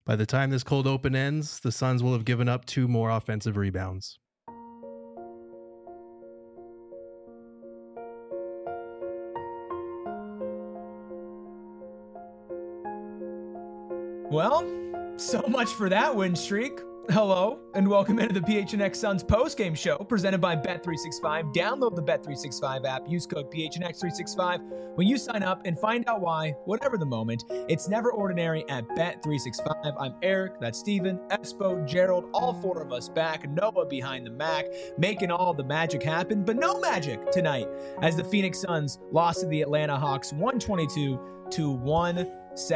By the time this cold open ends, the Suns will have given up 2 more offensive rebounds. Well, so much for that win streak. Hello, and welcome into the PHNX Suns postgame show presented by Bet365. Download the Bet365 app. Use code PHNX365 when you sign up and find out why, whatever the moment, it's never ordinary at Bet365. I'm Eric, that's Steven, Espo, Gerald, all 4 of us back. Noah behind the Mac, making all the magic happen, but no magic tonight as the Phoenix Suns lost to the Atlanta Hawks 122-117.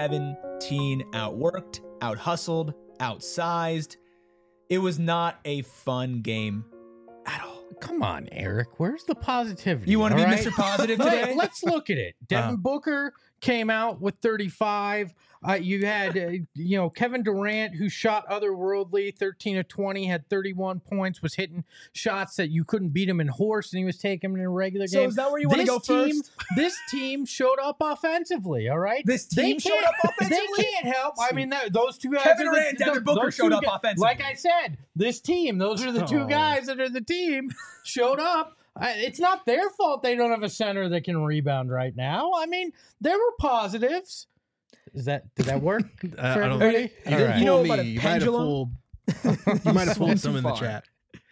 Outworked, out-hustled, outsized. It was not a fun game at all. Come on, Eric. Where's the positivity? You want to be right? Mr. Positive today? Let's look at it. Devin Booker came out with 35. You had, Kevin Durant, who shot otherworldly, 13 of 20, had 31 points, was hitting shots that you couldn't beat him in horse, and he was taking them in a regular game. So is that where you want to go first? This team showed up offensively, all right? This team showed up offensively? They can't help. I mean, those two guys. Kevin Durant and Devin Booker showed up offensively. Like I said, this team, those are the two guys that are the team, showed up. It's not their fault they don't have a center that can rebound right now. I mean, there were positives. Did that work for everybody? You know about a pendulum? You might have fooled some in the chat.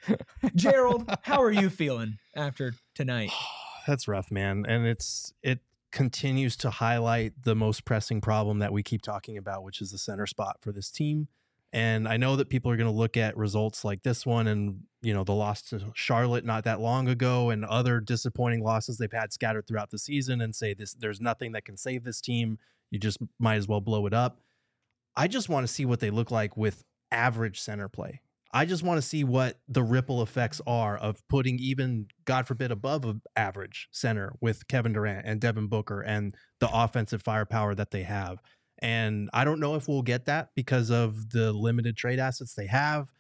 Gerald, how are you feeling after tonight? That's rough, man. And it continues to highlight the most pressing problem that we keep talking about, which is the center spot for this team. And I know that people are going to look at results like this one and, the loss to Charlotte not that long ago and other disappointing losses they've had scattered throughout the season and say there's nothing that can save this team. You just might as well blow it up. I just want to see what they look like with average center play. I just want to see what the ripple effects are of putting even, God forbid, above an average center with Kevin Durant and Devin Booker and the offensive firepower that they have. And I don't know if we'll get that because of the limited trade assets they have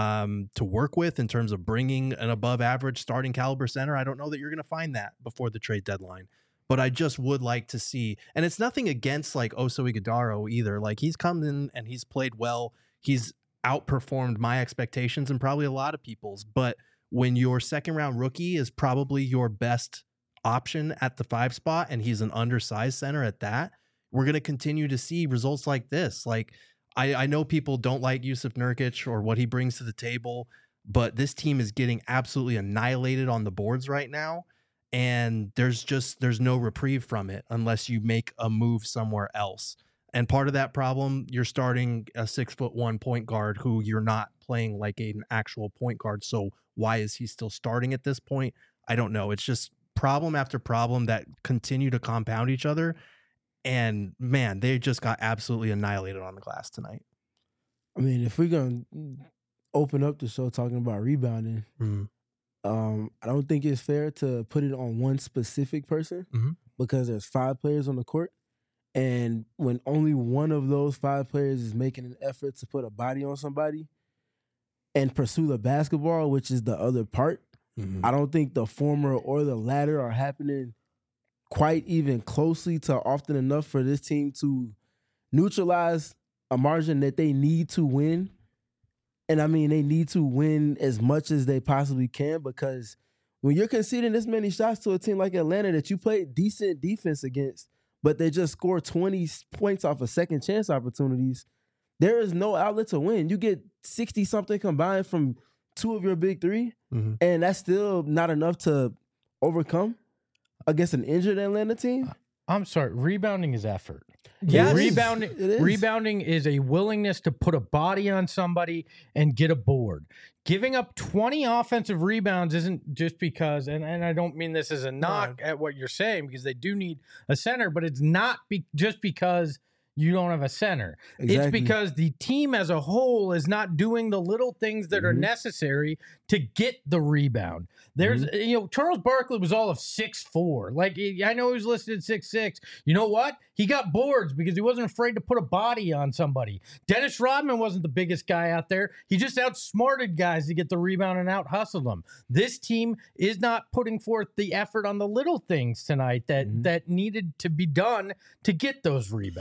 to work with in terms of bringing an above average starting caliber center. I don't know that you're going to find that before the trade deadline. But I just would like to see, and it's nothing against like Oso Ighodaro either. Like he's come in and he's played well. He's outperformed my expectations and probably a lot of people's. But when your second round rookie is probably your best option at the 5 spot and he's an undersized center at that, we're going to continue to see results like this. Like I know people don't like Jusuf Nurkic or what he brings to the table, but this team is getting absolutely annihilated on the boards right now. And there's no reprieve from it unless you make a move somewhere else. And part of that problem, you're starting a 6'1" point guard who you're not playing like an actual point guard. So why is he still starting at this point? I don't know. It's just problem after problem that continue to compound each other. And man, they just got absolutely annihilated on the glass tonight. I mean, if we're going to open up the show talking about rebounding, I don't think it's fair to put it on one specific person because there's 5 players on the court. And when only one of those 5 players is making an effort to put a body on somebody and pursue the basketball, which is the other part, I don't think the former or the latter are happening quite even closely to often enough for this team to neutralize a margin that they need to win. And I mean, they need to win as much as they possibly can because when you're conceding this many shots to a team like Atlanta that you played decent defense against, but they just score 20 points off of second chance opportunities, there is no outlet to win. You get 60-something combined from 2 of your big 3, and that's still not enough to overcome against an injured Atlanta team. I'm sorry. Rebounding is effort. Yes, Rebounding is a willingness to put a body on somebody and get a board. Giving up 20 offensive rebounds isn't just because, and I don't mean this as a knock at what you're saying, because they do need a center, but it's not just because you don't have a center. Exactly. It's because the team as a whole is not doing the little things that are necessary to get the rebound. There's, Charles Barkley was all of 6'4". Like, I know he was listed at 6'6". You know what? He got boards because he wasn't afraid to put a body on somebody. Dennis Rodman wasn't the biggest guy out there. He just outsmarted guys to get the rebound and out-hustled them. This team is not putting forth the effort on the little things tonight that needed to be done to get those rebounds.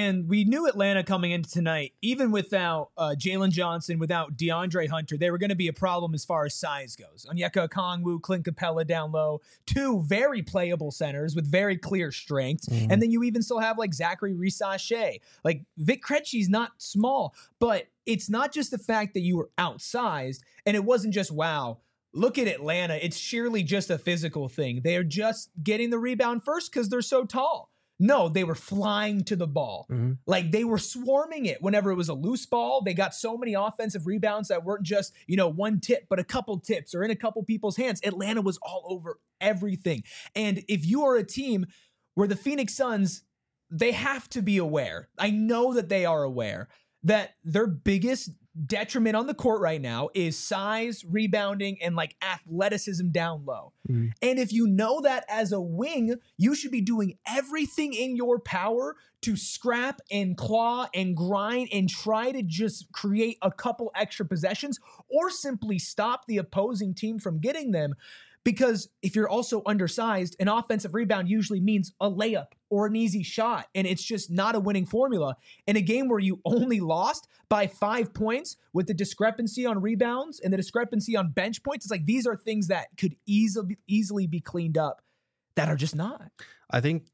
And we knew Atlanta coming into tonight, even without Jalen Johnson, without DeAndre Hunter, they were going to be a problem as far as size goes. Onyeka Okongwu, Clint Capella down low, two very playable centers with very clear strengths. Mm-hmm. And then you even still have like Zachary Risache. Like Vic Krejci's not small, but it's not just the fact that you were outsized, and it wasn't just, wow, look at Atlanta. It's sheerly just a physical thing. They are just getting the rebound first because they're so tall. No, they were flying to the ball. Mm-hmm. Like they were swarming it whenever it was a loose ball. They got so many offensive rebounds that weren't just, one tip, but a couple tips or in a couple people's hands. Atlanta was all over everything. And if you are a team where the Phoenix Suns, they have to be aware. I know that they are aware that their biggest detriment on the court right now is size, rebounding, and like athleticism down low. Mm. And if you know that as a wing, you should be doing everything in your power to scrap and claw and grind and try to just create a couple extra possessions or simply stop the opposing team from getting them. Because if you're also undersized, an offensive rebound usually means a layup or an easy shot, and it's just not a winning formula. In a game where you only lost by 5 points with the discrepancy on rebounds and the discrepancy on bench points, it's like these are things that could easily be cleaned up that are just not. I think,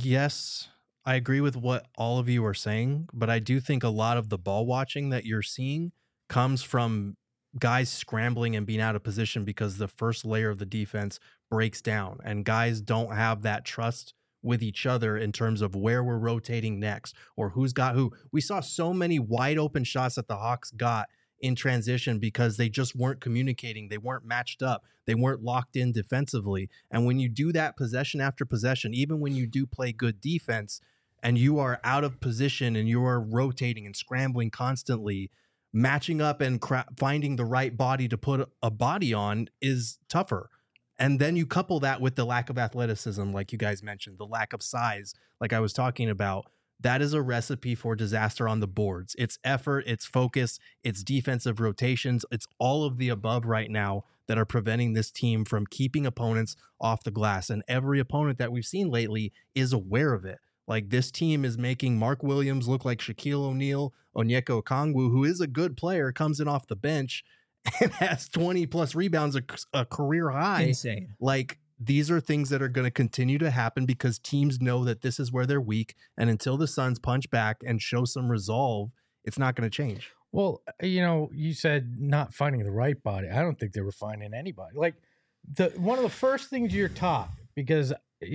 yes, I agree with what all of you are saying, but I do think a lot of the ball watching that you're seeing comes from guys scrambling and being out of position because the first layer of the defense breaks down and guys don't have that trust with each other in terms of where we're rotating next or who's got who. We saw so many wide open shots that the Hawks got in transition because they just weren't communicating. They weren't matched up. They weren't locked in defensively. And when you do that possession after possession, even when you do play good defense and you are out of position and you are rotating and scrambling constantly, matching up and finding the right body to put a body on is tougher. And then you couple that with the lack of athleticism, like you guys mentioned, the lack of size, like I was talking about. That is a recipe for disaster on the boards. It's effort, it's focus, it's defensive rotations. It's all of the above right now that are preventing this team from keeping opponents off the glass. And every opponent that we've seen lately is aware of it. Like this team is making Mark Williams look like Shaquille O'Neal. Onyeka Okongwu, who is a good player, comes in off the bench and has 20 plus rebounds, a career high. Insane. Like these are things that are going to continue to happen because teams know that this is where they're weak. And until the Suns punch back and show some resolve, it's not going to change. Well, you said not finding the right body. I don't think they were finding anybody. Like one of the first things you're taught, because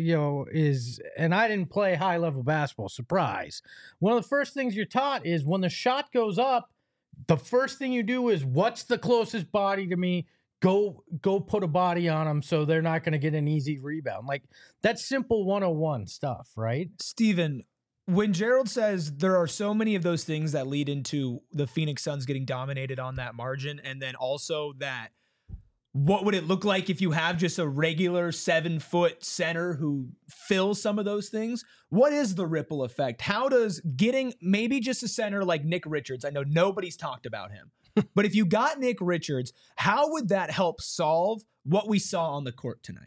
and I didn't play high level basketball, surprise. One of the first things you're taught is when the shot goes up, the first thing you do is what's the closest body to me? Go put a body on them so they're not going to get an easy rebound. Like that's simple 101 stuff, right? Steven, when Gerald says there are so many of those things that lead into the Phoenix Suns getting dominated on that margin, and then also that what would it look like if you have just a regular 7-foot center who fills some of those things? What is the ripple effect? How does getting maybe just a center like Nick Richards, I know nobody's talked about him, but if you got Nick Richards, how would that help solve what we saw on the court tonight?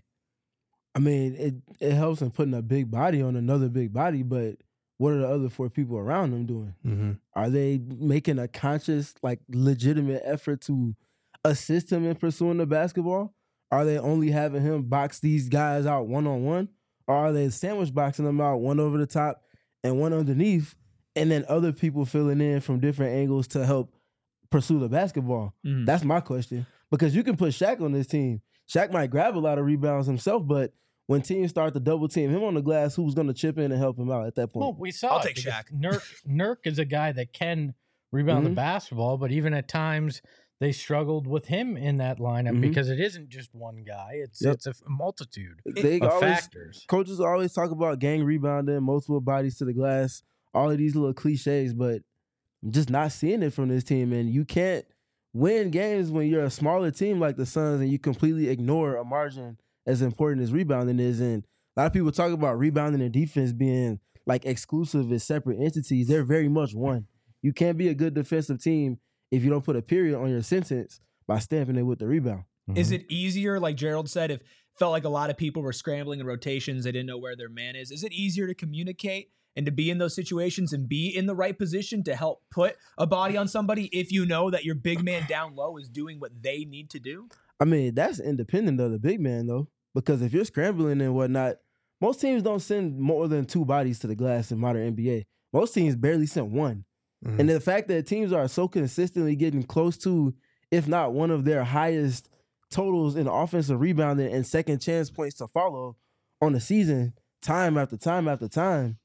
I mean, it helps in putting a big body on another big body, but what are the other 4 people around them doing? Mm-hmm. Are they making a conscious, like legitimate effort to assist him in pursuing the basketball? Are they only having him box these guys out one-on-one? Or are they sandwich boxing them out, one over the top and one underneath, and then other people filling in from different angles to help pursue the basketball? Mm-hmm. That's my question. Because you can put Shaq on this team. Shaq might grab a lot of rebounds himself, but when teams start to double team him on the glass, who's going to chip in and help him out at that point? Well, we saw I'll take Shaq. Nurk is a guy that can rebound the basketball, but even at times they struggled with him in that lineup because it isn't just one guy. It's a multitude of factors. Coaches always talk about gang rebounding, multiple bodies to the glass, all of these little cliches, but I'm just not seeing it from this team. And you can't win games when you're a smaller team like the Suns and you completely ignore a margin as important as rebounding is. And a lot of people talk about rebounding and defense being like exclusive as separate entities. They're very much one. You can't be a good defensive team if you don't put a period on your sentence by stamping it with the rebound. Mm-hmm. Is it easier, like Gerald said, if felt like a lot of people were scrambling in rotations, they didn't know where their man is it easier to communicate and to be in those situations and be in the right position to help put a body on somebody if you know that your big man down low is doing what they need to do? I mean, that's independent of the big man, though, because if you're scrambling and whatnot, most teams don't send more than 2 bodies to the glass in modern NBA. Most teams barely send 1. Mm-hmm. And the fact that teams are so consistently getting close to, if not one of their highest totals in offensive rebounding and second chance points to follow on the season, time after time after time.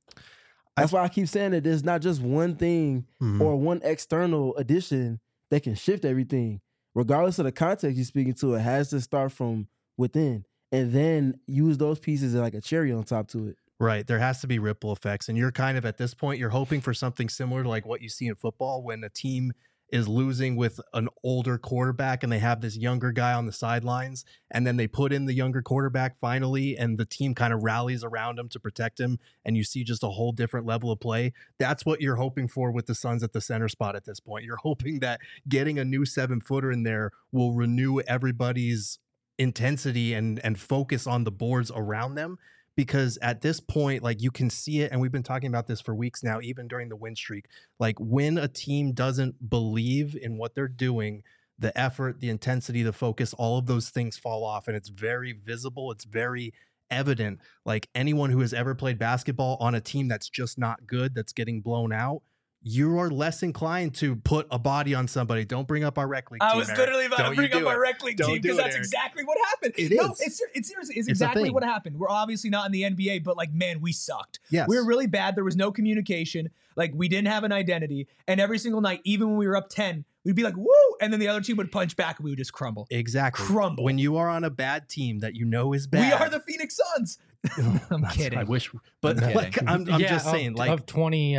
That's why I keep saying that there's not just one thing or one external addition that can shift everything. Regardless of the context you're speaking to, it has to start from within and then use those pieces as like a cherry on top to it. Right. There has to be ripple effects. And you're kind of at this point, you're hoping for something similar to like what you see in football when a team is losing with an older quarterback and they have this younger guy on the sidelines, and then they put in the younger quarterback finally, and the team kind of rallies around him to protect him, and you see just a whole different level of play. That's what you're hoping for with the Suns at the center spot at this point. You're hoping that getting a new 7-footer in there will renew everybody's intensity and focus on the boards around them. Because at this point, like, you can see it, and we've been talking about this for weeks now, even during the win streak. Like, when a team doesn't believe in what they're doing, the effort, the intensity, the focus, all of those things fall off, and it's very visible. It's very evident. Like, anyone who has ever played basketball on a team that's just not good, that's getting blown out, you are less inclined to put a body on somebody. Don't bring up our rec league team. I was literally about to bring up our rec league team because that's exactly what happened. It's seriously, it's exactly what happened. We're obviously not in the NBA, but like, man, we sucked. Yes. We were really bad. There was no communication. Like, we didn't have an identity. And every single night, even when we were up 10, we'd be like, woo! And then the other team would punch back and we would just crumble. Exactly. Crumble. When you are on a bad team that you know is bad. We are the Phoenix Suns. I'm kidding. I wish, but I'm just saying, like, of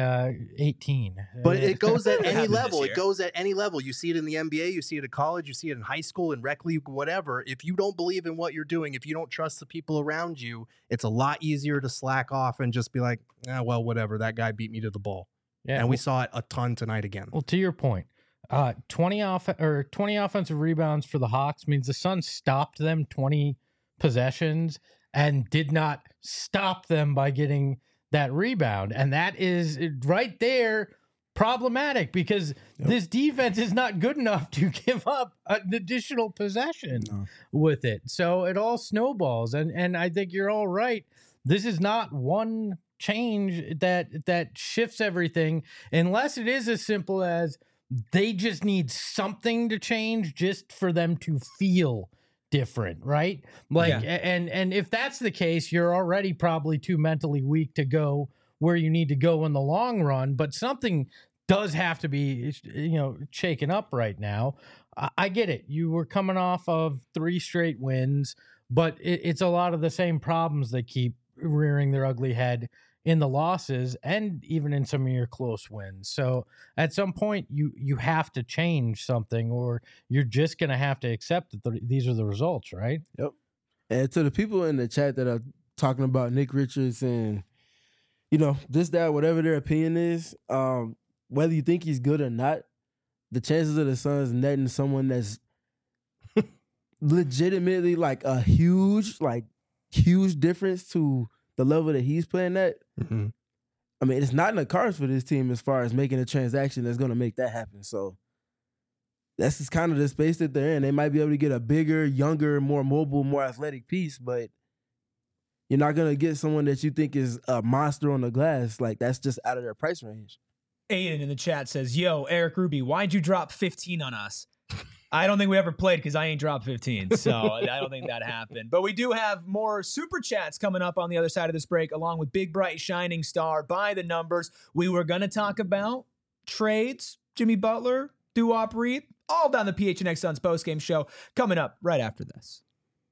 2018. But it goes at any level. It goes at any level. You see it in the NBA. You see it at college. You see it in high school, in rec league, whatever. If you don't believe in what you're doing, if you don't trust the people around you, it's a lot easier to slack off and just be like, well, whatever. That guy beat me to the ball. Yeah, and we saw it a ton tonight again. Well, to your point, 20 offensive rebounds for the Hawks means the Suns stopped them 20 possessions and did not stop them by getting that rebound. And that is right there problematic because this defense is not good enough to give up an additional possession with it. So it all snowballs. And I think you're all right. This is not one change that shifts everything, unless it is as simple as they just need something to change just for them to feel different, right? Like, and if that's the case, you're already probably too mentally weak to go where you need to go in the long run. But something does have to be, shaken up right now. I get it. You were coming off of 3 straight wins, but it's a lot of the same problems that keep rearing their ugly head in the losses and even in some of your close wins. So at some point you have to change something, or you're just going to have to accept that these are the results, right? Yep. And to the people in the chat that are talking about Nick Richards and, this, that, whatever their opinion is, whether you think he's good or not, the chances of the Suns netting someone that's legitimately like a huge difference to the level that he's playing at, I mean, it's not in the cards for this team as far as making a transaction that's going to make that happen. So that's just kind of the space that they're in. They might be able to get a bigger, younger, more mobile, more athletic piece, but you're not going to get someone that you think is a monster on the glass. Like, that's just out of their price range. Aiden in the chat says, yo, Eric Ruby, why'd you drop 15 on us? I don't think we ever played because I ain't dropped 15, so I don't think that happened. But we do have more super chats coming up on the other side of this break, along with Big Bright Shining Star by the numbers. We were going to talk about trades, Jimmy Butler, Doo-Wop Reed, all down the PHNX Suns postgame show, coming up right after this.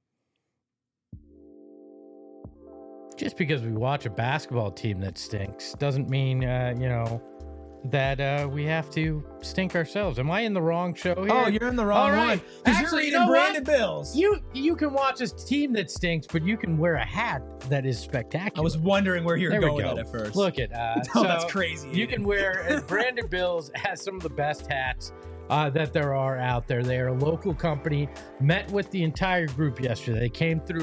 Just because we watch a basketball team that stinks doesn't mean, that we have to stink ourselves. Am I in the wrong show here? Oh, you're in the wrong one. Because you're eating Brandon Bills. You can watch a team that stinks, but you can wear a hat that is spectacular. I was wondering where you were going with it at first. Look at that's crazy. You can wear Brandon Bills has some of the best hats that there are out there. They are a local company. Met with the entire group yesterday. They came through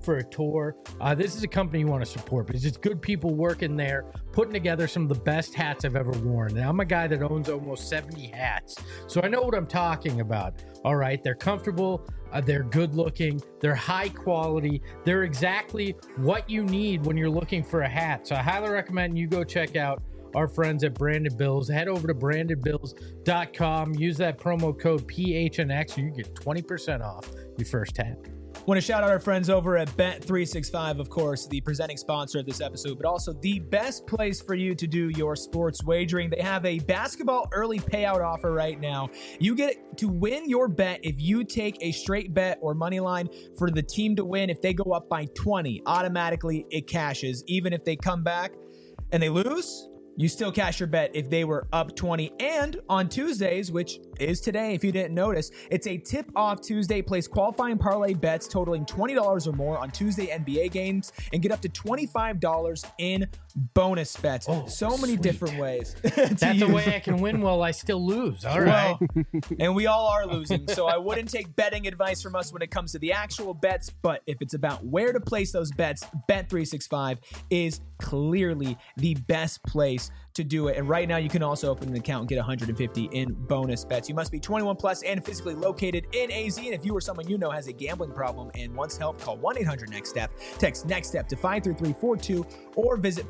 for a tour, this is a company you want to support because it's good people working there, putting together some of the best hats I've ever worn. And I'm a guy that owns almost 70 hats, so I know what I'm talking about. All right, they're comfortable, they're good looking, they're high quality, they're exactly what you need when you're looking for a hat. So I highly recommend you go check out our friends at Branded Bills. Head over to brandedbills.com, use that promo code PHNX, and you get 20% off your first hat. Want to shout out our friends over at Bet365, of course, the presenting sponsor of this episode, but also the best place for you to do your sports wagering. They have a basketball early payout offer right now. You get to win your bet if you take a straight bet or money line for the team to win. If they go up by 20, automatically it cashes. Even if they come back and they lose, you still cash your bet if they were up 20. And on Tuesdays, which is today if you didn't notice, it's a tip-off Tuesday. Place qualifying parlay bets totaling $20 or more on Tuesday NBA games and get up to $25 in bonus bets. Oh, so many sweet. different ways. That's a way I can win while I still lose. All right. Well, and we all are losing, so I wouldn't take betting advice from us when it comes to the actual bets, but if it's about where to place those bets, Bet365 is clearly the best place to do it. And right now, you can also open an account and get $150 in bonus bets. You must be 21 plus and physically located in AZ. And if you or someone you know has a gambling problem and wants help, call 1-800-NEXT-STEP. Text NEXT-STEP to 53342 or visit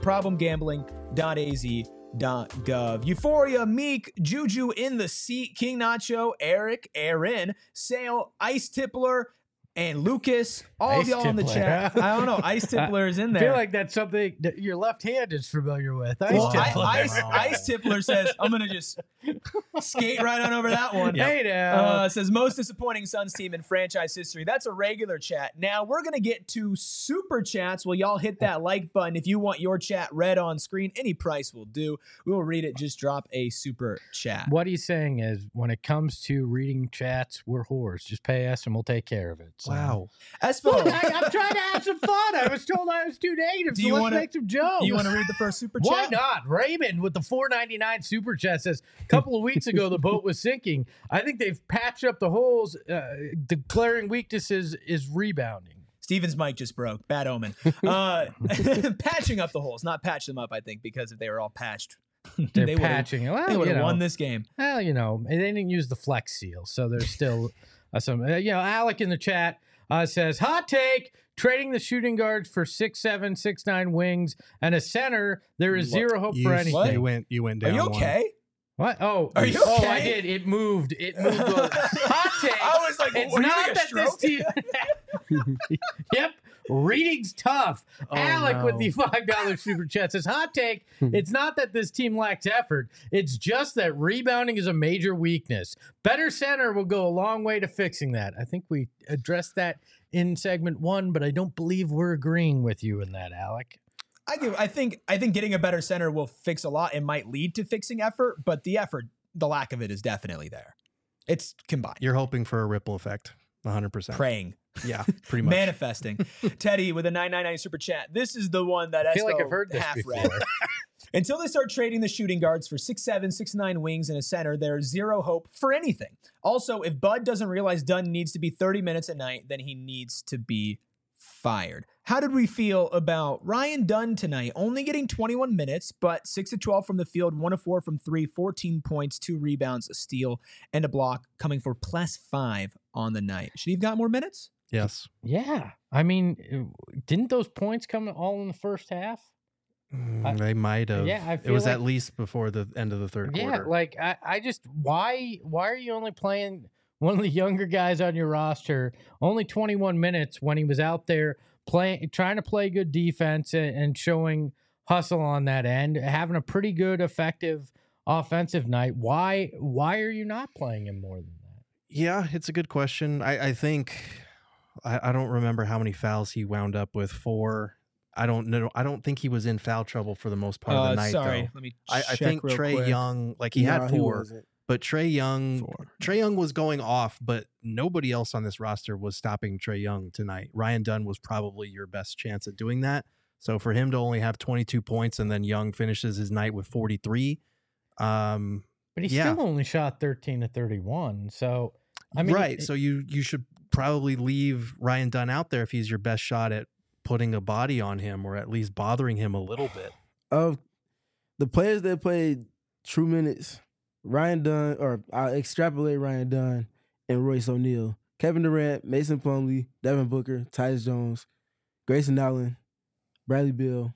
problemgambling.az.gov. Euphoria, Meek, Juju in the seat, King Nacho, Eric, Aaron, Sale, Ice Tippler, and Lucas, all of y'all in the chat. I don't know. Ice Tippler is in there. I feel like that's something that your left hand is familiar with. Ice Tippler says, I'm going to just skate right on over that one. Hey now. Says, most disappointing Suns team in franchise history. That's a regular chat. Now, we're going to get to super chats. Well, y'all hit that like button. If you want your chat read on screen, any price will do. We will read it. Just drop a super chat. What he's saying is when it comes to reading chats, we're whores. Just pay us and we'll take care of it. So. Wow. Espo. Look, I'm trying to have some fun. I was told I was too negative, so let's make some jokes. You want to read the first super chat? Why not? Raymond with the $4.99 super chat says, a couple of weeks ago, the boat was sinking. I think they've patched up the holes. Declaring weaknesses is rebounding. Steven's mic just broke. Bad omen. Patching up the holes, not patch them up, I think, because if they were all patched, they're patching. Well, they would have won this game. Well, they didn't use the Flex Seal, so there's still some. Alec in the chat says, hot take, trading the shooting guards for 6'7", 6'9" wings and a center. There is zero hope for anything. What? You went down. Are you okay? What? Oh, are you okay? Oh, I did. It moved. Hot take. I was like, it's not that this team. Yep. Reading's tough. Alec with the $5 super chat says, hot take, it's not that this team lacks effort. It's just that rebounding is a major weakness. Better center will go a long way to fixing that. I think we addressed that in segment 1, but I don't believe we're agreeing with you in that, Alec. I think getting a better center will fix a lot. It might lead to fixing effort, but the lack of it is definitely there. It's combined. You're hoping for a ripple effect. 100%. Praying. Yeah, pretty much. Manifesting. Teddy with a $9.99 super chat. This is the one that I feel like I've heard this half before. read. Until they start trading the shooting guards for 6'7", 6'9" wings and a center, there's zero hope for anything. Also, if Bud doesn't realize Dunn needs to be 30 minutes a night, then he needs to be fired. How did we feel about Ryan Dunn tonight? Only getting 21 minutes, but 6 of 12 from the field, 1 of 4 from 3, 14 points, 2 rebounds, a steal, and a block, coming for +5 on the night. Should he have got more minutes? Yes. Yeah. I mean, didn't those points come all in the first half? They might have. Yeah, I feel it was like, at least before the end of the third quarter. Yeah, like I just why are you only playing one of the younger guys on your roster only 21 minutes when he was out there trying to play good defense and showing hustle on that end, having a pretty good effective offensive night? Why are you not playing him more than that? Yeah, it's a good question. I think I don't remember how many fouls he wound up with. 4. I don't know. I don't think he was in foul trouble for the most part of the night. Sorry, though. let me. I think Trae Young, he had 4, but Trae Young was going off, but nobody else on this roster was stopping Trae Young tonight. Ryan Dunn was probably your best chance at doing that. So for him to only have 22 points and then Young finishes his night with 43. But he still only shot 13 to 31. So I mean, right. So you should probably leave Ryan Dunn out there if he's your best shot at putting a body on him or at least bothering him a little bit. Of the players that played true minutes, Ryan Dunn, or I'll extrapolate Ryan Dunn and Royce O'Neal, Kevin Durant, Mason Plumlee, Devin Booker, Tyus Jones, Grayson Allen, Bradley Beal,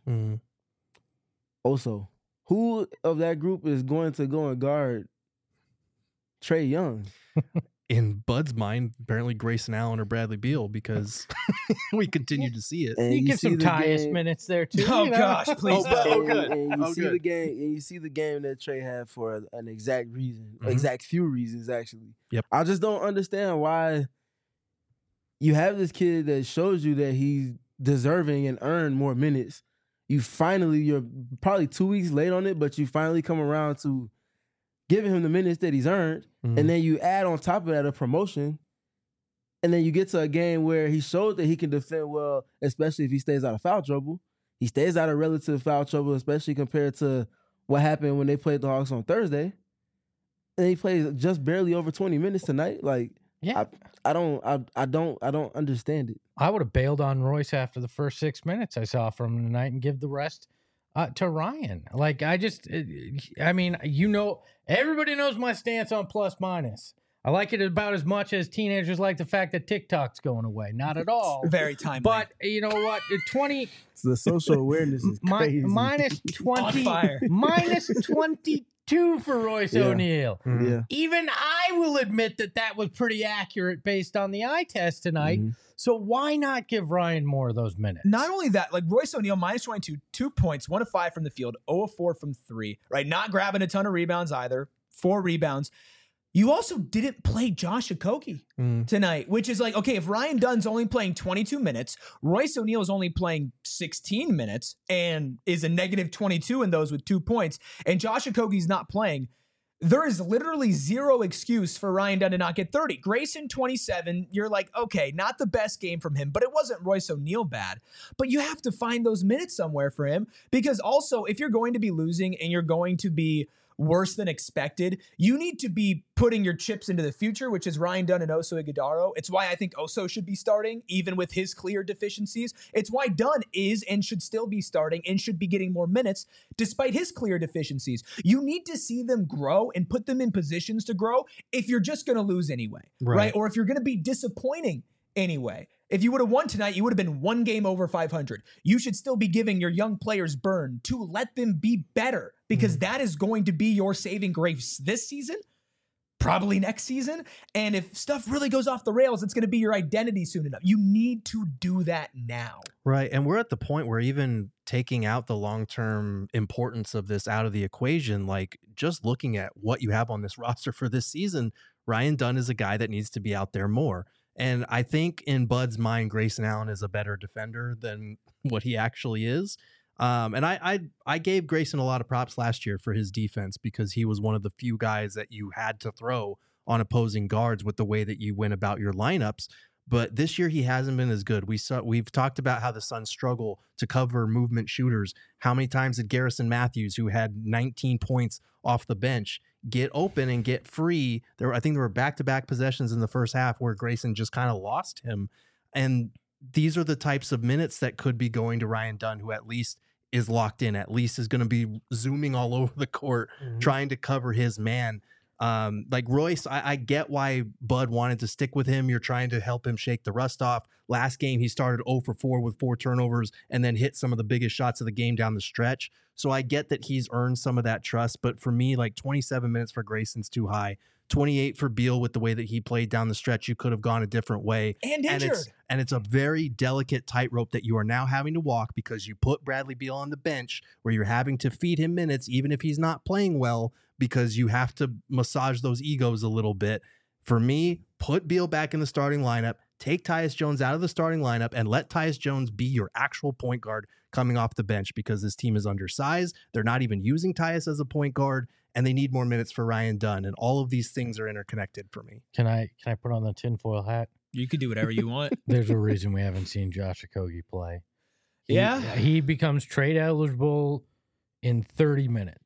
Also, who of that group is going to go and guard Trae Young? In Bud's mind, apparently Grayson Allen or Bradley Beal, because we continue to see it. And you get some Tyus minutes there too. Oh gosh, please! Good. And you see the game, and you see the game that Trae had for an exact reason, exact few reasons actually. Yep. I just don't understand why you have this kid that shows you that he's deserving and earned more minutes. You're probably 2 weeks late on it, but you finally come around to giving him the minutes that he's earned, and then you add on top of that a promotion, and then you get to a game where he showed that he can defend well, especially if he stays out of foul trouble. He stays out of relative foul trouble, especially compared to what happened when they played the Hawks on Thursday. And he plays just barely over 20 minutes tonight. Like, yeah, I don't understand it. I would have bailed on Royce after the first 6 minutes I saw from him tonight and give the rest to Ryan. Like, everybody knows my stance on plus minus. I like it about as much as teenagers like the fact that TikTok's going away. Not at all. Very timely. But you know what? 20. The social awareness is crazy. Minus 20. Minus 22 for Royce O'Neal. Yeah. Even I will admit that was pretty accurate based on the eye test tonight. So why not give Ryan more of those minutes? Not only that, like Royce O'Neal, minus 22, 2 points, 1 of 5 from the field, 0 of 4 from 3, right? Not grabbing a ton of rebounds either, 4 rebounds. You also didn't play Josh Okogie tonight, which is like, okay, if Ryan Dunn's only playing 22 minutes, Royce O'Neal is only playing 16 minutes and is a negative 22 in those with 2 points, and Josh Okogie's not playing, there is literally zero excuse for Ryan Dunn to not get 30. Grayson, 27, you're like, okay, not the best game from him, but it wasn't Royce O'Neal bad. But you have to find those minutes somewhere for him, because also if you're going to be losing and you're going to be worse than expected, you need to be putting your chips into the future, which is Ryan Dunn and Oso Ighodaro. It's why I think Oso should be starting, even with his clear deficiencies. It's why Dunn is and should still be starting and should be getting more minutes, despite his clear deficiencies. You need to see them grow and put them in positions to grow if you're just going to lose anyway, right? Or if you're going to be disappointing anyway. If you would have won tonight, you would have been 1 game over 500. You should still be giving your young players burn to let them be better, because that is going to be your saving grace this season, probably next season. And if stuff really goes off the rails, it's going to be your identity soon enough. You need to do that now. Right. And we're at the point where even taking out the long-term importance of this out of the equation, like just looking at what you have on this roster for this season, Ryan Dunn is a guy that needs to be out there more. And I think in Bud's mind, Grayson Allen is a better defender than what he actually is. And I gave Grayson a lot of props last year for his defense, because he was one of the few guys that you had to throw on opposing guards with the way that you went about your lineups. But this year he hasn't been as good. We've talked about how the Suns struggle to cover movement shooters. How many times did Garrison Matthews, who had 19 points off the bench, get open and get free? I think there were back-to-back possessions in the first half where Grayson just kind of lost him. And these are the types of minutes that could be going to Ryan Dunn, who at least is locked in, at least is going to be zooming all over the court, trying to cover his man. Like Royce, I get why Bud wanted to stick with him. You're trying to help him shake the rust off. Last game, he started 0 for 4 with 4 turnovers and then hit some of the biggest shots of the game down the stretch. So I get that he's earned some of that trust. But for me, like 27 minutes for Grayson's too high. 28 for Beal with the way that he played down the stretch. You could have gone a different way. And injured. And it's a very delicate tightrope that you are now having to walk, because you put Bradley Beal on the bench where you're having to feed him minutes, even if he's not playing well, because you have to massage those egos a little bit. For me, put Beal back in the starting lineup, take Tyus Jones out of the starting lineup, and let Tyus Jones be your actual point guard coming off the bench, because this team is undersized. They're not even using Tyus as a point guard, and they need more minutes for Ryan Dunn. And all of these things are interconnected for me. Can I put on the tinfoil hat? You could do whatever you want. There's a reason we haven't seen Josh Okogie play. Yeah. He becomes trade eligible in 30 minutes.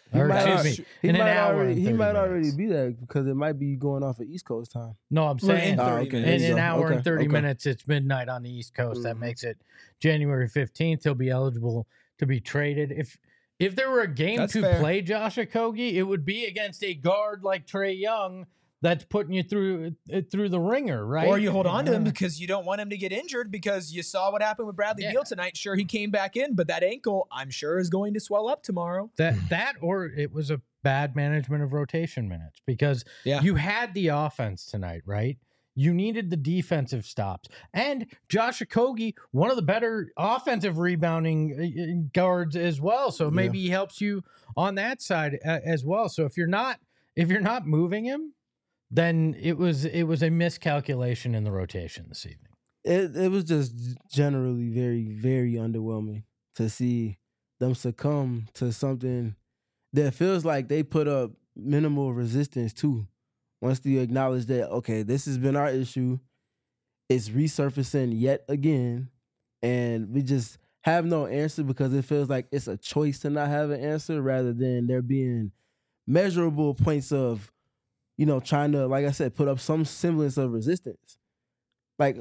He Or, might excuse me, in an hour and 30 he might minutes. already be there because it might be going off of East Coast time. No, I'm saying in 30 okay. minutes. in an hour Okay, and 30 okay. minutes, it's midnight on the East Coast. That makes it January 15th. He'll be eligible to be traded. If there were a game That's to fair. play Josh Okogie, it would be against a guard like Trae Young that's putting you through the ringer, right? Or you hold on to him because you don't want him to get injured because you saw what happened with Bradley Yeah. Beal tonight. Sure, he came back in, but that ankle, I'm sure, is going to swell up tomorrow. That or it was a bad management of rotation minutes because Yeah. you had the offense tonight, right? You needed the defensive stops. And Josh Okogie, one of the better offensive rebounding guards as well. So maybe he helps you on that side as well. So if you're not moving him, then it was a miscalculation in the rotation this evening. It was just generally very, very underwhelming to see them succumb to something that feels like they put up minimal resistance to. Once you acknowledge that, okay, this has been our issue, it's resurfacing yet again, and we just have no answer because it feels like it's a choice to not have an answer rather than there being measurable points of, trying to, like I said, put up some semblance of resistance. Like,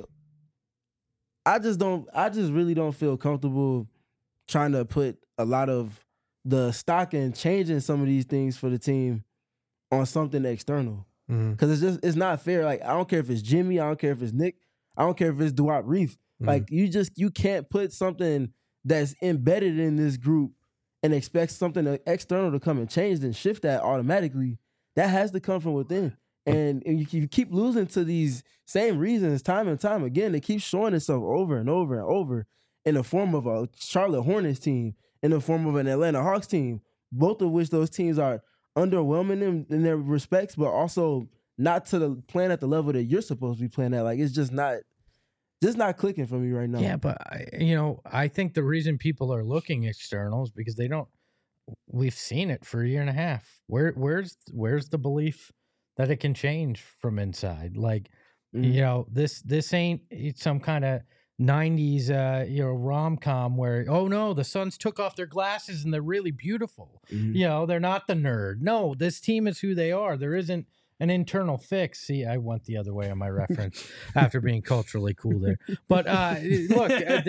I just really don't feel comfortable trying to put a lot of the stock in changing some of these things for the team on something external. Because it's not fair. Like, I don't care if it's Jimmy, I don't care if it's Nick, I don't care if it's Duop Reith. Like, you can't put something that's embedded in this group and expect something external to come and change and shift that automatically. That has to come from within. And you keep losing to these same reasons time and time again. It keeps showing itself over and over and over in the form of a Charlotte Hornets team, in the form of an Atlanta Hawks team, both of which those teams are underwhelming in their respects, but also not playing at the level that you're supposed to be playing at. Like, it's just not clicking for me right now. Yeah, but I think the reason people are looking external is because they don't. We've seen it for a year and a half. Where's the belief that it can change from inside? Like, this ain't some kind of 90s rom-com where, oh no, the Suns took off their glasses and they're really beautiful. They're not the nerd. No, this team is who they are. There isn't an internal fix. See, I went the other way on my reference after being culturally cool there. But look,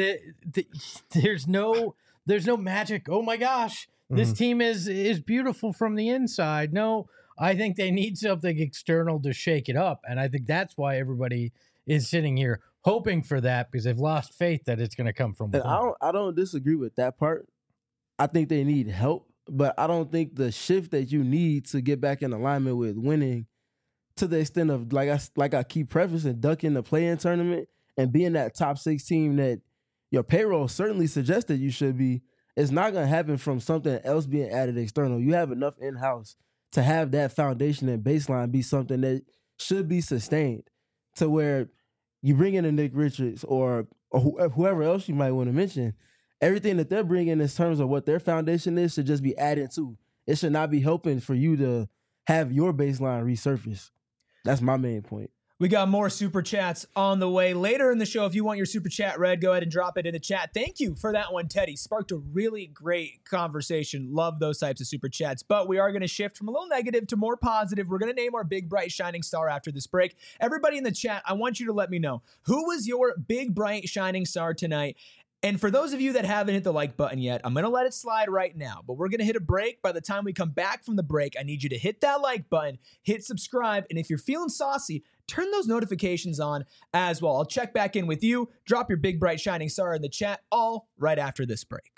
there's no magic. Oh my gosh, this team is beautiful from the inside. No, I think they need something external to shake it up, and I think that's why everybody is sitting here hoping for that because they've lost faith that it's going to come from within. I don't disagree with that part. I think they need help, but I don't think the shift that you need to get back in alignment with winning, to the extent of like I keep prefacing, ducking the play-in tournament and being that top 6 team that your payroll certainly suggested you should be, is not going to happen from something else being added external. You have enough in-house to have that foundation and baseline be something that should be sustained, to where you bring in a Nick Richards or whoever else you might want to mention, everything that they're bringing in terms of what their foundation is should just be added to. It should not be helping for you to have your baseline resurface. That's my main point. We got more super chats on the way later in the show. If you want your super chat read, go ahead and drop it in the chat. Thank you for that one, Teddy. Sparked a really great conversation. Love those types of super chats. But we are going to shift from a little negative to more positive. We're going to name our big, bright, shining star after this break. Everybody in the chat, I want you to let me know, who was your big, bright, shining star tonight? And for those of you that haven't hit the like button yet, I'm going to let it slide right now, but we're going to hit a break. By the time we come back from the break, I need you to hit that like button, hit subscribe, and if you're feeling saucy, turn those notifications on as well. I'll check back in with you. Drop your big, bright, shining star in the chat, all right after this break.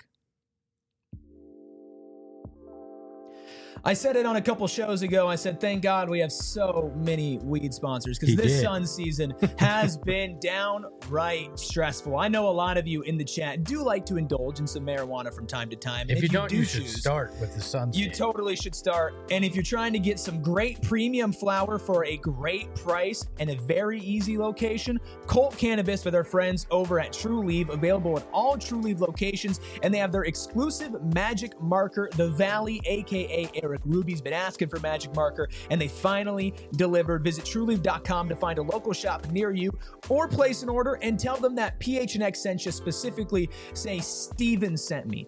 I said it on a couple shows ago. I said, thank God we have so many weed sponsors because this Suns season has been downright stressful. I know a lot of you in the chat do like to indulge in some marijuana from time to time. If you don't, you should start with the Suns. You totally should start. And if you're trying to get some great premium flower for a great price and a very easy location, Colt Cannabis with our friends over at True Leaf, available at all True Leaf locations. And they have their exclusive magic marker, the Valley, aka Rick Ruby's been asking for Magic Marker, and they finally delivered. Visit trueleaf.com to find a local shop near you or place an order and tell them that PHNX sent you. Specifically, say Steven sent me.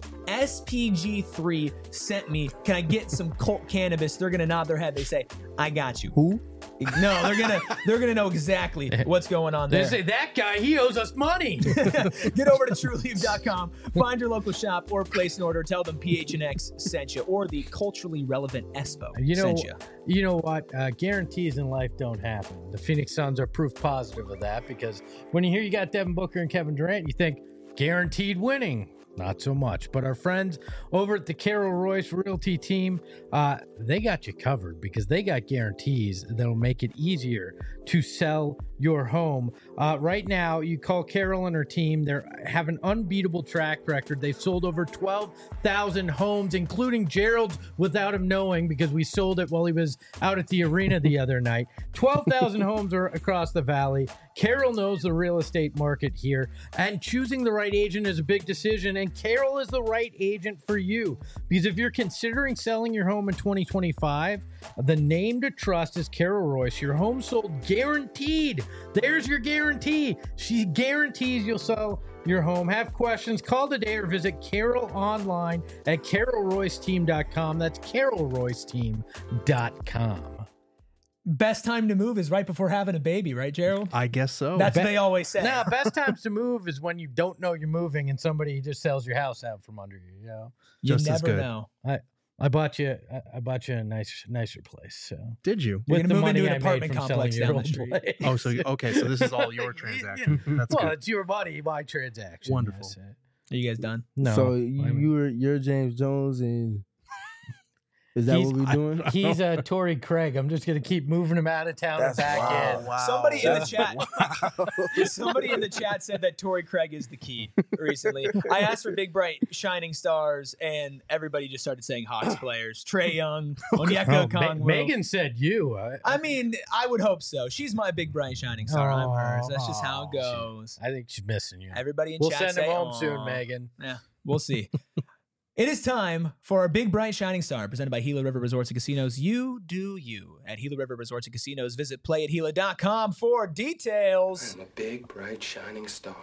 SPG3 sent me. Can I get some Colt cannabis? They're going to nod their head. They say, I got you. Who? No, they're gonna know exactly what's going on there. They say, that guy, he owes us money. Get over to trueleaf.com, find your local shop or place an order. Tell them PHNX sent you, or the culturally relevant Espo sent you. You know what? Guarantees in life don't happen. The Phoenix Suns are proof positive of that, because when you hear you got Devin Booker and Kevin Durant, you think guaranteed winning. Not so much. But our friends over at the Carol Royce Realty team, they got you covered, because they got guarantees that'll make it easier to sell your home. Right now, you call Carol and her team. They have an unbeatable track record. They've sold over 12,000 homes, including Gerald's, without him knowing, because we sold it while he was out at the arena the other night. 12,000 homes are across the valley. Carol knows the real estate market here, and choosing the right agent is a big decision, and Carol is the right agent for you. Because if you're considering selling your home in 2025, the name to trust is Carol Royce. Your home sold guaranteed. There's your guarantee. She guarantees you'll sell your home. Have questions? Call today or visit Carol online at carolroyceteam.com. That's carolroyceteam.com. Best time to move is right before having a baby, right, Gerald? I guess so. That's what they always say. Now, best times to move is when you don't know you're moving and somebody just sells your house out from under you. You know, you Just as never good. know. I bought you a nicer place. So Did you? You're with gonna the move into money an I made apartment from complex selling your down the old street. place. Oh, so okay. So this is all your transaction. That's Well, good. it's your money, my transaction. Wonderful. Yes. Are you guys done? No. So you're James Jones, and is that what we're doing? He's Torrey Craig. I'm just gonna keep moving him out of town and back in. Wow. Somebody in the chat. Somebody in the chat said that Torrey Craig is the key recently. I asked for big, bright, shining stars, and everybody just started saying Hawks players. Trey Young, Onyeka Okongwu. Megan said you. I mean, I would hope so. She's my big, bright, shining star. I'm hers. That's just how it goes. I think she's missing you. Everybody in We'll chat send say, him home "Aw." soon, Megan. Yeah, we'll see. It is time for our big, bright, shining star presented by Gila River Resorts and Casinos. You do you at Gila River Resorts and Casinos. Visit playatgila.com for details. I'm a big, bright, shining star.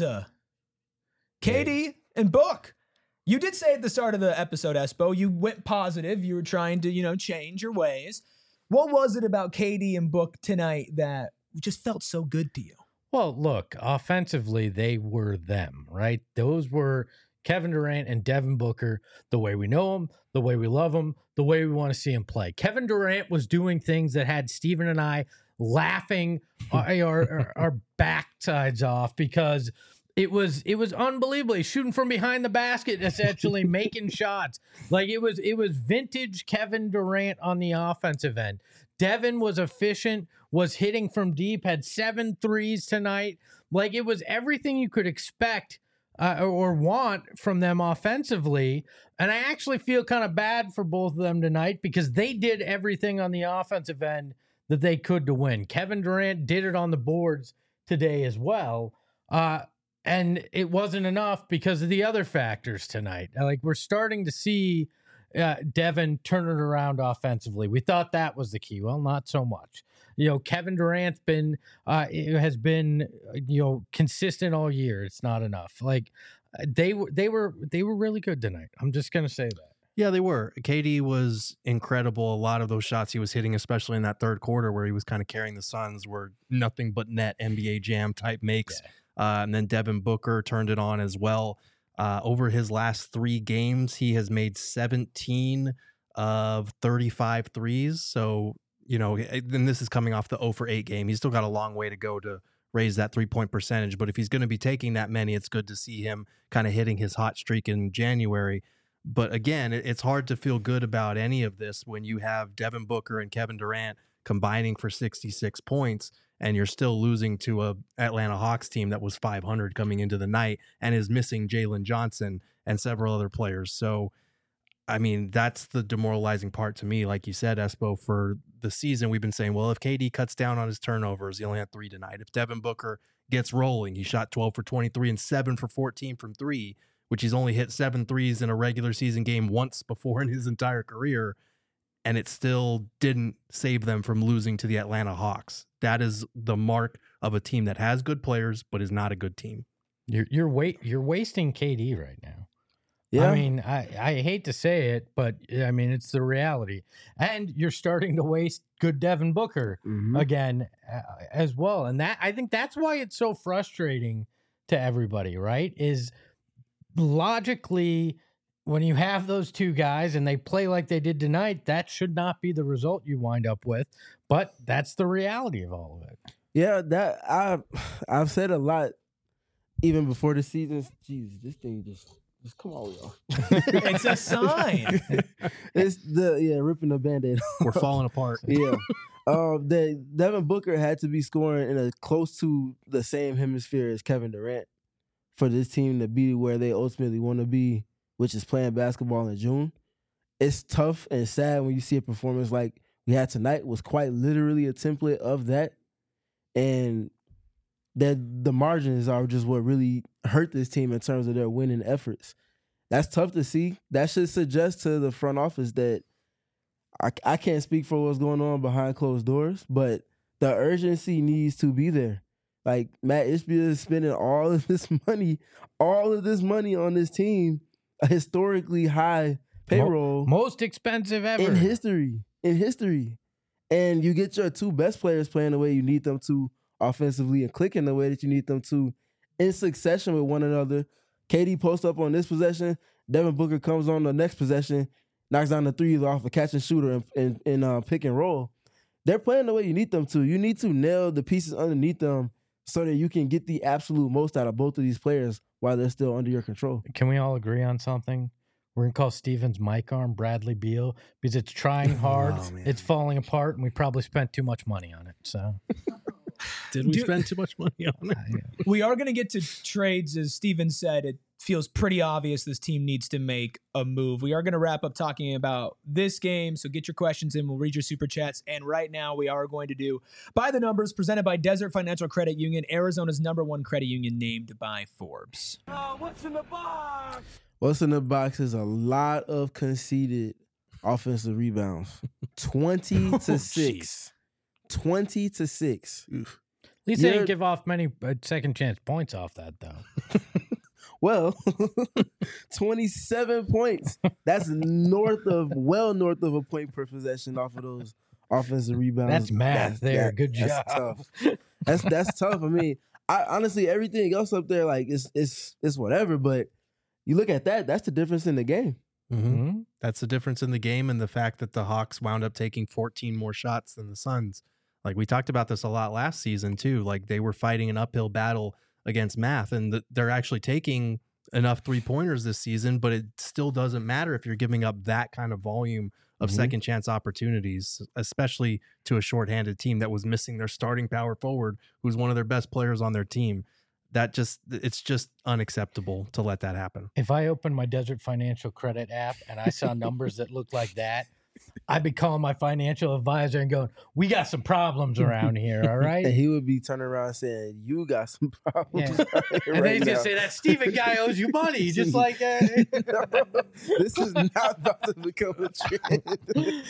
Katie and Book. You did say at the start of the episode, Espo, you went positive. You were trying to, change your ways. What was it about Katie and Book tonight that just felt so good to you? Well, look, offensively, they were them, right? Those were Kevin Durant and Devin Booker, the way we know them, the way we love them, the way we want to see him play. Kevin Durant was doing things that had Steven and I laughing our backsides off, because it was unbelievable. He's shooting from behind the basket, essentially making shots. Like it was vintage Kevin Durant on the offensive end. Devin was efficient, was hitting from deep, had 7 threes tonight. Like it was everything you could expect or want from them offensively. And I actually feel kind of bad for both of them tonight, because they did everything on the offensive end that they could to win. Kevin Durant did it on the boards today as well. And it wasn't enough because of the other factors tonight. Like we're starting to see Devin turn it around offensively. We thought that was the key. Well, not so much. Kevin Durant's has been consistent all year. It's not enough. Like they were really good tonight. I'm just gonna say that. Yeah, they were. KD was incredible. A lot of those shots he was hitting, especially in that third quarter where he was kind of carrying the Suns, were nothing but net NBA Jam type makes. Yeah. And then Devin Booker turned it on as well. Over his last 3 games, he has made 17 of 35 threes. So, and this is coming off the 0 for 8 game. He's still got a long way to go to raise that 3-point percentage. But if he's going to be taking that many, it's good to see him kind of hitting his hot streak in January. But again, it's hard to feel good about any of this when you have Devin Booker and Kevin Durant combining for 66 points, and you're still losing to a Atlanta Hawks team that was 500 coming into the night and is missing Jalen Johnson and several other players. So, I mean, that's the demoralizing part to me. Like you said, Espo, for the season, we've been saying, well, if KD cuts down on his turnovers, he only had 3 tonight. If Devin Booker gets rolling, he shot 12 for 23 and 7 for 14 from 3, which he's only hit 7 threes in a regular season game once before in his entire career. and it still didn't save them from losing to the Atlanta Hawks. That is the mark of a team that has good players but is not a good team. You're wasting KD right now. Yeah. I mean, I hate to say it, but I mean, it's the reality. And you're starting to waste good Devin Booker again as well. And I think that's why it's so frustrating to everybody, right? Is logically, when you have those two guys and they play like they did tonight, that should not be the result you wind up with. But that's the reality of all of it. Yeah, that I've said a lot even before the season. Jeez, this thing just come on, y'all. It's a sign. It's ripping the Band-Aid. We're falling apart. Yeah. Devin Booker had to be scoring in a close to the same hemisphere as Kevin Durant for this team to be where they ultimately want to be, which is playing basketball in June. It's tough and sad when you see a performance like we had tonight was quite literally a template of that. And that the margins are just what really hurt this team in terms of their winning efforts. That's tough to see. That should suggest to the front office that I can't speak for what's going on behind closed doors, but the urgency needs to be there. Like, Matt Ishbia is spending all of this money on this team, a historically high payroll. Most expensive ever. In history. And you get your two best players playing the way you need them to offensively and clicking the way that you need them to in succession with one another. KD posts up on this possession. Devin Booker comes on the next possession, knocks down the threes off a catch and shooter in pick and roll. They're playing the way you need them to. You need to nail the pieces underneath them so that you can get the absolute most out of both of these players while they're still under your control. Can we all agree on something? We're going to call Steven's mic arm Bradley Beal because it's trying hard, it's falling apart, and we probably spent too much money on it. So, did we spend too much money on it? We are going to get to trades. As Steven said, it feels pretty obvious this team needs to make a move. We are going to wrap up talking about this game, so get your questions in. We'll read your super chats. And right now we are going to do By the Numbers, presented by Desert Financial Credit Union, Arizona's #1 credit union, named by Forbes. What's in the box? What's in the box is a lot of conceded offensive rebounds. 20 to 6. 20 to 6. At least they didn't give off many second chance points off that, though. Well, 27 points. That's well north of a point per possession off of those offensive rebounds. That's math there. Good job. That's tough. That's tough. I mean, honestly, everything else up there, like, it's whatever, but you look at that, that's the difference in the game. Mm-hmm. That's the difference in the game, and the fact that the Hawks wound up taking 14 more shots than the Suns. Like, we talked about this a lot last season, too. Like, they were fighting an uphill battle against math, and they're actually taking enough three-pointers this season, but it still doesn't matter if you're giving up that kind of volume of second chance opportunities, especially to a shorthanded team that was missing their starting power forward, who's one of their best players on their team. It's just unacceptable to let that happen. If I opened my Desert Financial Credit app and I saw numbers that looked like that, I'd be calling my financial advisor and going, "We got some problems around here, all right?" And he would be turning around saying, "You got some problems." Yeah. Right and then he's now. gonna say, "That Steven guy owes you money," just like that. This is not about to become a trend.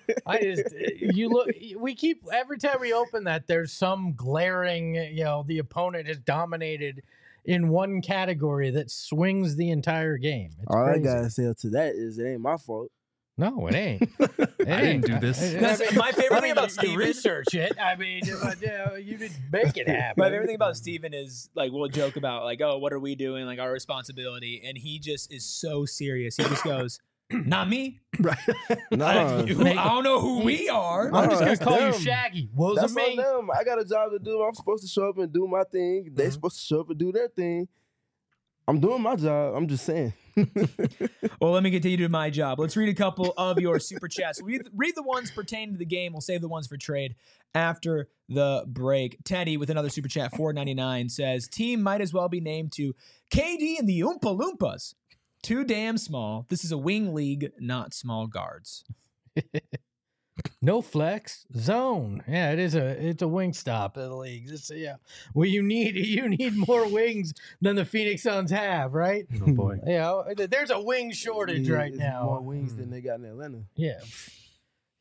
We keep every time we open that, there's some glaring, the opponent has dominated in one category that swings the entire game. It's All crazy. I gotta say to that is it ain't my fault. No, it ain't. I didn't do this. That's my favorite thing about You Steven. research it. I mean, you did make it happen. My favorite thing about Steven is, like, we'll joke about, like, oh, what are we doing? Like, our responsibility. And he just is so serious. He just goes, not me. Right. No, I don't know who we are. I'm just gonna that's call you them. Shaggy. that's Wasn't on me. them. I got a job to do. I'm supposed to show up and do my thing. They're supposed to show up and do their thing. I'm doing my job. I'm just saying. Well, let me continue to do my job. Let's read a couple of your super chats. Read the ones pertaining to the game. We'll save the ones for trade after the break. Teddy with another super chat, $4.99, says, team might as well be named to KD and the Oompa Loompas. Too damn small. This is a wing league, not small guards. No flex zone. Yeah, it's a wing stop in the league. Well, you need more wings than the Phoenix Suns have, right? Oh boy. There's a wing shortage right It's now. more wings than they got in Atlanta. Yeah.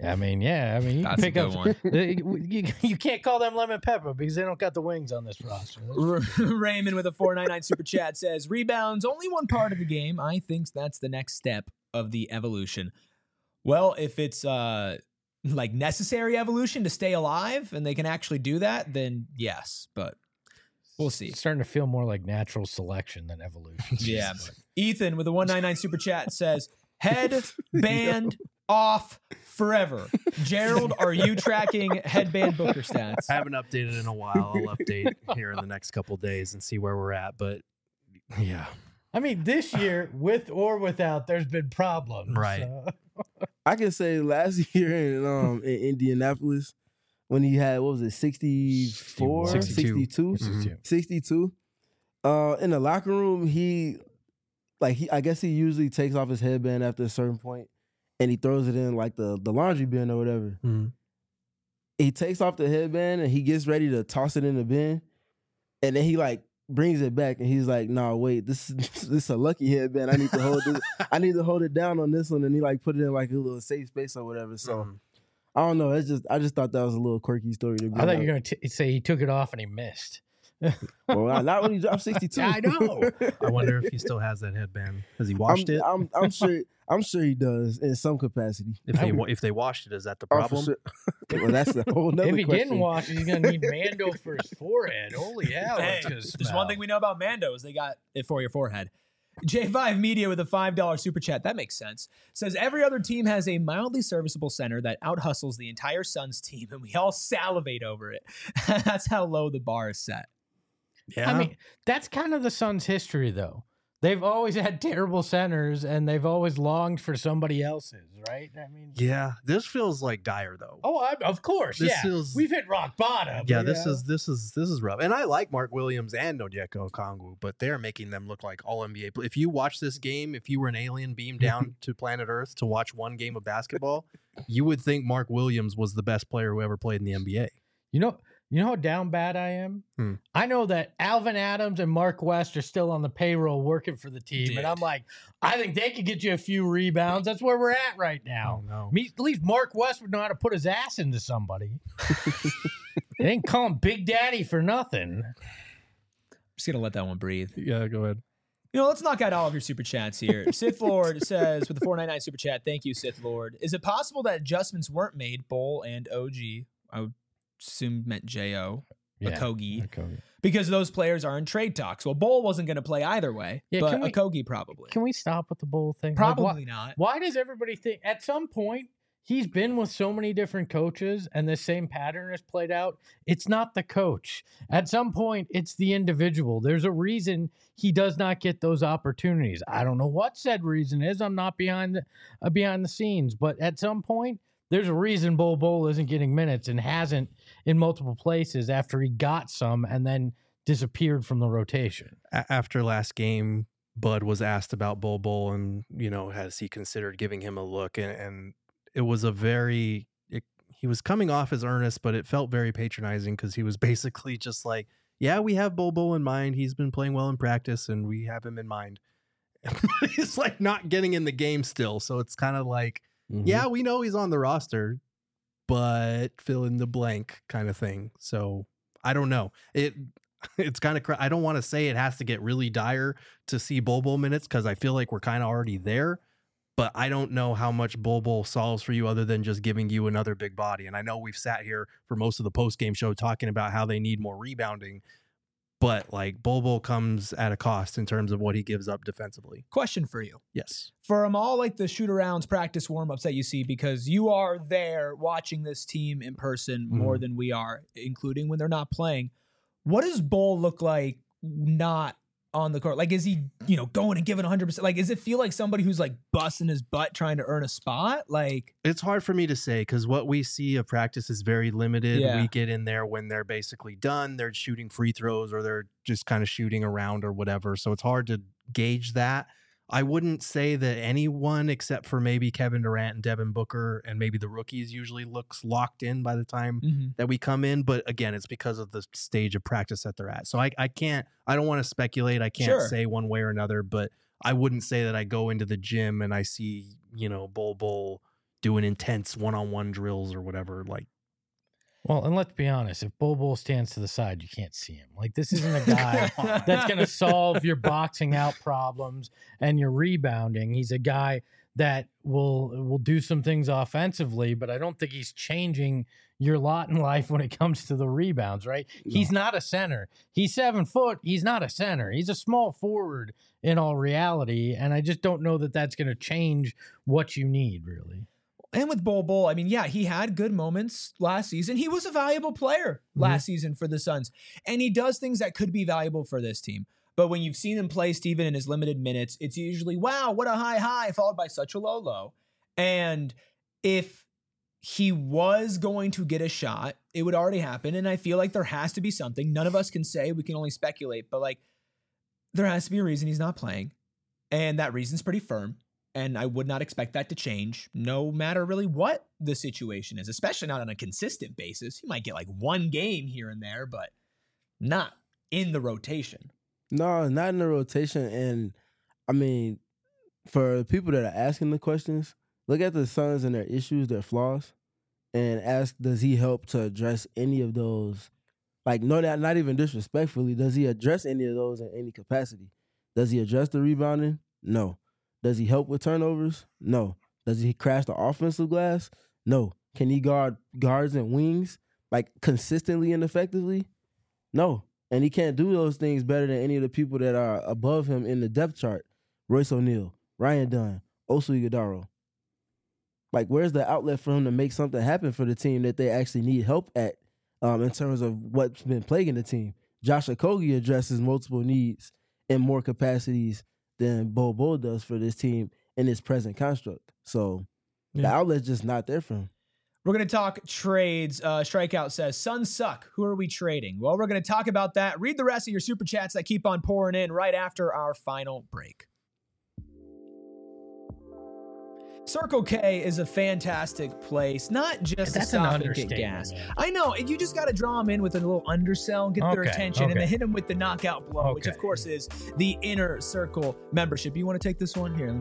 I mean, you That's pick a up good one. You can't call them lemon pepper because they don't got the wings on this roster. Raymond with a 499 super chat says, rebounds, only one part of the game. I think that's the next step of the evolution. Well, if it's like necessary evolution to stay alive and they can actually do that, then yes, but we'll see. It's starting to feel more like natural selection than evolution. Yeah. Ethan with a 199 super chat says, head band off forever. Gerald, are you tracking headband Booker stats? I haven't updated in a while. I'll update here in the next couple of days and see where we're at. But yeah, I mean, this year, with or without, there's been problems. Right. I can say last year in Indianapolis when he had, what was it, 64? 62? 62. In the locker room, I guess he usually takes off his headband after a certain point and he throws it in like the laundry bin or whatever. Mm-hmm. He takes off the headband and he gets ready to toss it in the bin. And then he like brings it back and he's like, "No, wait, this is a lucky headband. I need to hold this. I need to hold it down on this one." And he like put it in like a little safe space or whatever. So I don't know. I just thought that was a little quirky story to be. I thought you were going to say he took it off and he missed. Well, not when he dropped 62. I know. I wonder if he still has that headband. Has he washed it? I'm sure he does in some capacity. If they washed it, is that the problem? Sure. Well, that's a whole nother If he question. didn't wash it, he's going to need Mando for his forehead. Holy hell. Hey, there's one thing we know about Mando is they got it for your forehead. J5 Media with a $5 super chat. That makes sense. Says every other team has a mildly serviceable center that out-hustles the entire Suns team, and we all salivate over it. That's how low the bar is set. Yeah. I mean, that's kind of the Suns' history, though. They've always had terrible centers, and they've always longed for somebody else's, right? I mean, yeah, this feels like dire though. Oh, of course, This yeah. feels- We've hit rock bottom. Yeah, you this know? is rough. And I like Mark Williams and Onyeka Okongwu, but they're making them look like all NBA. If you watch this game, if you were an alien beamed down to planet Earth to watch one game of basketball, you would think Mark Williams was the best player who ever played in the NBA. You know how down bad I am? I know that Alvin Adams and Mark West are still on the payroll working for the team. And I'm like, I think they could get you a few rebounds. That's where we're at right now. Oh, no. At least Mark West would know how to put his ass into somebody. They ain't call him Big Daddy for nothing. I'm just going to let that one breathe. Yeah, go ahead. Let's knock out all of your super chats here. Sith Lord says with the 499 super chat, thank you, Sith Lord. Is it possible that adjustments weren't made, Bull and OG? I would assume meant J.O. Okogie, because those players are in trade talks. Well, Bull wasn't going to play either way, but Okogie probably. Can we stop with the Bull thing? Probably not. Why does everybody think at some point he's been with so many different coaches and the same pattern has played out? It's not the coach. At some point, it's the individual. There's a reason he does not get those opportunities. I don't know what said reason is. I'm not behind the scenes, but at some point, there's a reason Bol isn't getting minutes and hasn't in multiple places after he got some and then disappeared from the rotation. After last game, Bud was asked about Bol and, has he considered giving him a look? And it was he was coming off as earnest, but it felt very patronizing because he was basically just like, yeah, we have Bol in mind. He's been playing well in practice and we have him in mind. He's like not getting in the game still. So it's kind of like, yeah, we know he's on the roster, but fill in the blank kind of thing. So I don't know. It's kind of, I don't want to say it has to get really dire to see Bol minutes because I feel like we're kind of already there, but I don't know how much Bol solves for you other than just giving you another big body. And I know we've sat here for most of the post-game show talking about how they need more rebounding, but like Bol comes at a cost in terms of what he gives up defensively. Question for you. Yes. From all like the shoot-arounds, practice warm-ups that you see, because you are there watching this team in person more than we are, including when they're not playing, what does Bol look like not on the court? Like, is he, going and giving 100%? Like, does it feel like somebody who's like busting his butt trying to earn a spot? Like, it's hard for me to say because what we see of practice is very limited. Yeah. We get in there when they're basically done. They're shooting free throws or they're just kind of shooting around or whatever. So it's hard to gauge that. I wouldn't say that anyone except for maybe Kevin Durant and Devin Booker and maybe the rookies usually looks locked in by the time that we come in. But again, it's because of the stage of practice that they're at. So I don't want to speculate. I can't say one way or another, but I wouldn't say that I go into the gym and I see, Bol, doing intense one-on-one drills or whatever. Like, well, and let's be honest, if Bol Bol stands to the side, you can't see him. Like, this isn't a guy that's going to solve your boxing out problems and your rebounding. He's a guy that will do some things offensively, but I don't think he's changing your lot in life when it comes to the rebounds, right? No. He's not a center. He's 7 foot. He's not a center. He's a small forward in all reality, and I just don't know that that's going to change what you need, really. And with Bol Bol, I mean, yeah, he had good moments last season. He was a valuable player last season for the Suns, and he does things that could be valuable for this team. But when you've seen him play, Steven, in his limited minutes, it's usually, wow, what a high, followed by such a low. And if he was going to get a shot, it would already happen. And I feel like there has to be something. None of us can say, we can only speculate, but like, there has to be a reason he's not playing. And that reason's pretty firm. And I would not expect that to change, no matter really what the situation is, especially not on a consistent basis. He might get like one game here and there, but not in the rotation. No, not in the rotation. And I mean, for people that are asking the questions, look at the Suns and their issues, their flaws, and ask, does he help to address any of those? Like, no, not even disrespectfully, does he address any of those in any capacity? Does he address the rebounding? No. Does he help with turnovers? No. Does he crash the offensive glass? No. Can he guard guards and wings like consistently and effectively? No. And he can't do those things better than any of the people that are above him in the depth chart. Royce O'Neal, Ryan Dunn, Oso Ighodaro. Like, where's the outlet for him to make something happen for the team that they actually need help at in terms of what's been plaguing the team? Josh Okogie addresses multiple needs in more capacities than Bol Bol does for this team in its present construct. So the outlet's just not there for him. We're going to talk trades. Strikeout says, Suns suck. Who are we trading? Well, we're going to talk about that. Read the rest of your super chats that keep on pouring in right after our final break. Circle K is a fantastic place, not just to stop and get gas. Man. I know, and you just got to draw them in with a little undersell, get their attention, and then hit them with the knockout blow, which of course is the Inner Circle membership. You want to take this one here?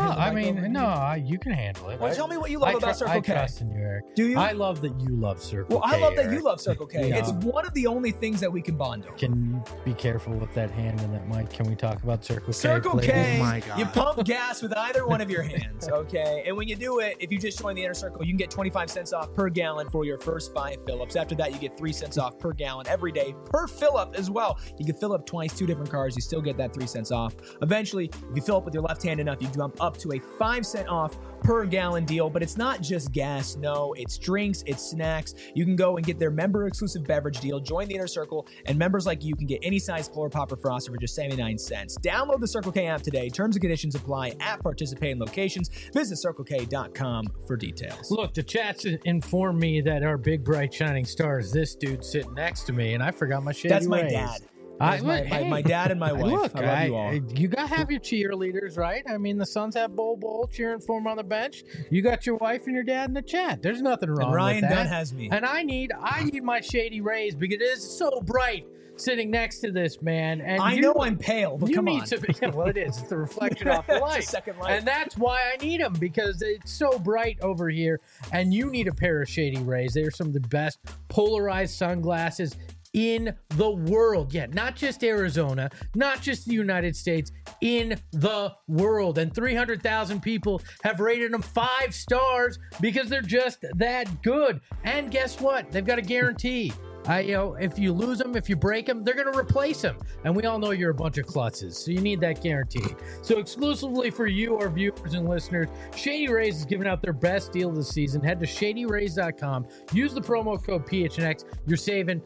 You can handle it. Well, tell me what you love about Circle K. I trust in you, Eric. Do you? I love that you love Circle K. Well, I love that Eric. you love Circle K. It's one of the only things that we can bond over. Can you be careful with that hand and that mic? Can we talk about Circle K? Circle K, oh my God. You pump gas with either one of your hands, okay? And when you do it, if you just join the Inner Circle, you can get 25 cents off per gallon for your first 5 fill-ups. After that, you get 3 cents off per gallon every day per fill-up as well. You can fill up twice, 2 different cars. You still get that 3 cents off. Eventually, if you fill up with your left hand enough, you jump up to a 5 cent off per gallon deal. But it's not just gas. No, it's drinks, it's snacks. You can go and get their member-exclusive beverage deal. Join the Inner Circle, and members like you can get any size Polar Pop or Froster for just 79 cents. Download the Circle K app today. Terms and conditions apply at participating locations. Visit CircleK.com for details. Look, the chats inform me that our big, bright, shining star is this dude sitting next to me, and I forgot my shady That's my rays. dad. My dad and my wife. Look, I love you all. You got to have your cheerleaders, right? I mean, the Suns have Bol Bol cheering for him on the bench. You got your wife and your dad in the chat. There's nothing wrong and Ryan with that. Dunn has me. And I need my shady rays because it is so bright sitting next to this man. And I know I'm pale, but come on. Well, it is. It's the reflection off the light. It's a second light. And that's why I need them, because it's so bright over here. And you need a pair of shady rays. They are some of the best polarized sunglasses in the world. Yeah, not just Arizona, not just the United States, in the world. And 300,000 people have rated them 5 stars because they're just that good. And guess what? They've got a guarantee. If you lose them, if you break them, they're going to replace them. And we all know you're a bunch of klutzes, so you need that guarantee. So exclusively for you, our viewers and listeners, Shady Rays is giving out their best deal of the season. Head to ShadyRays.com. Use the promo code PHNX. You're saving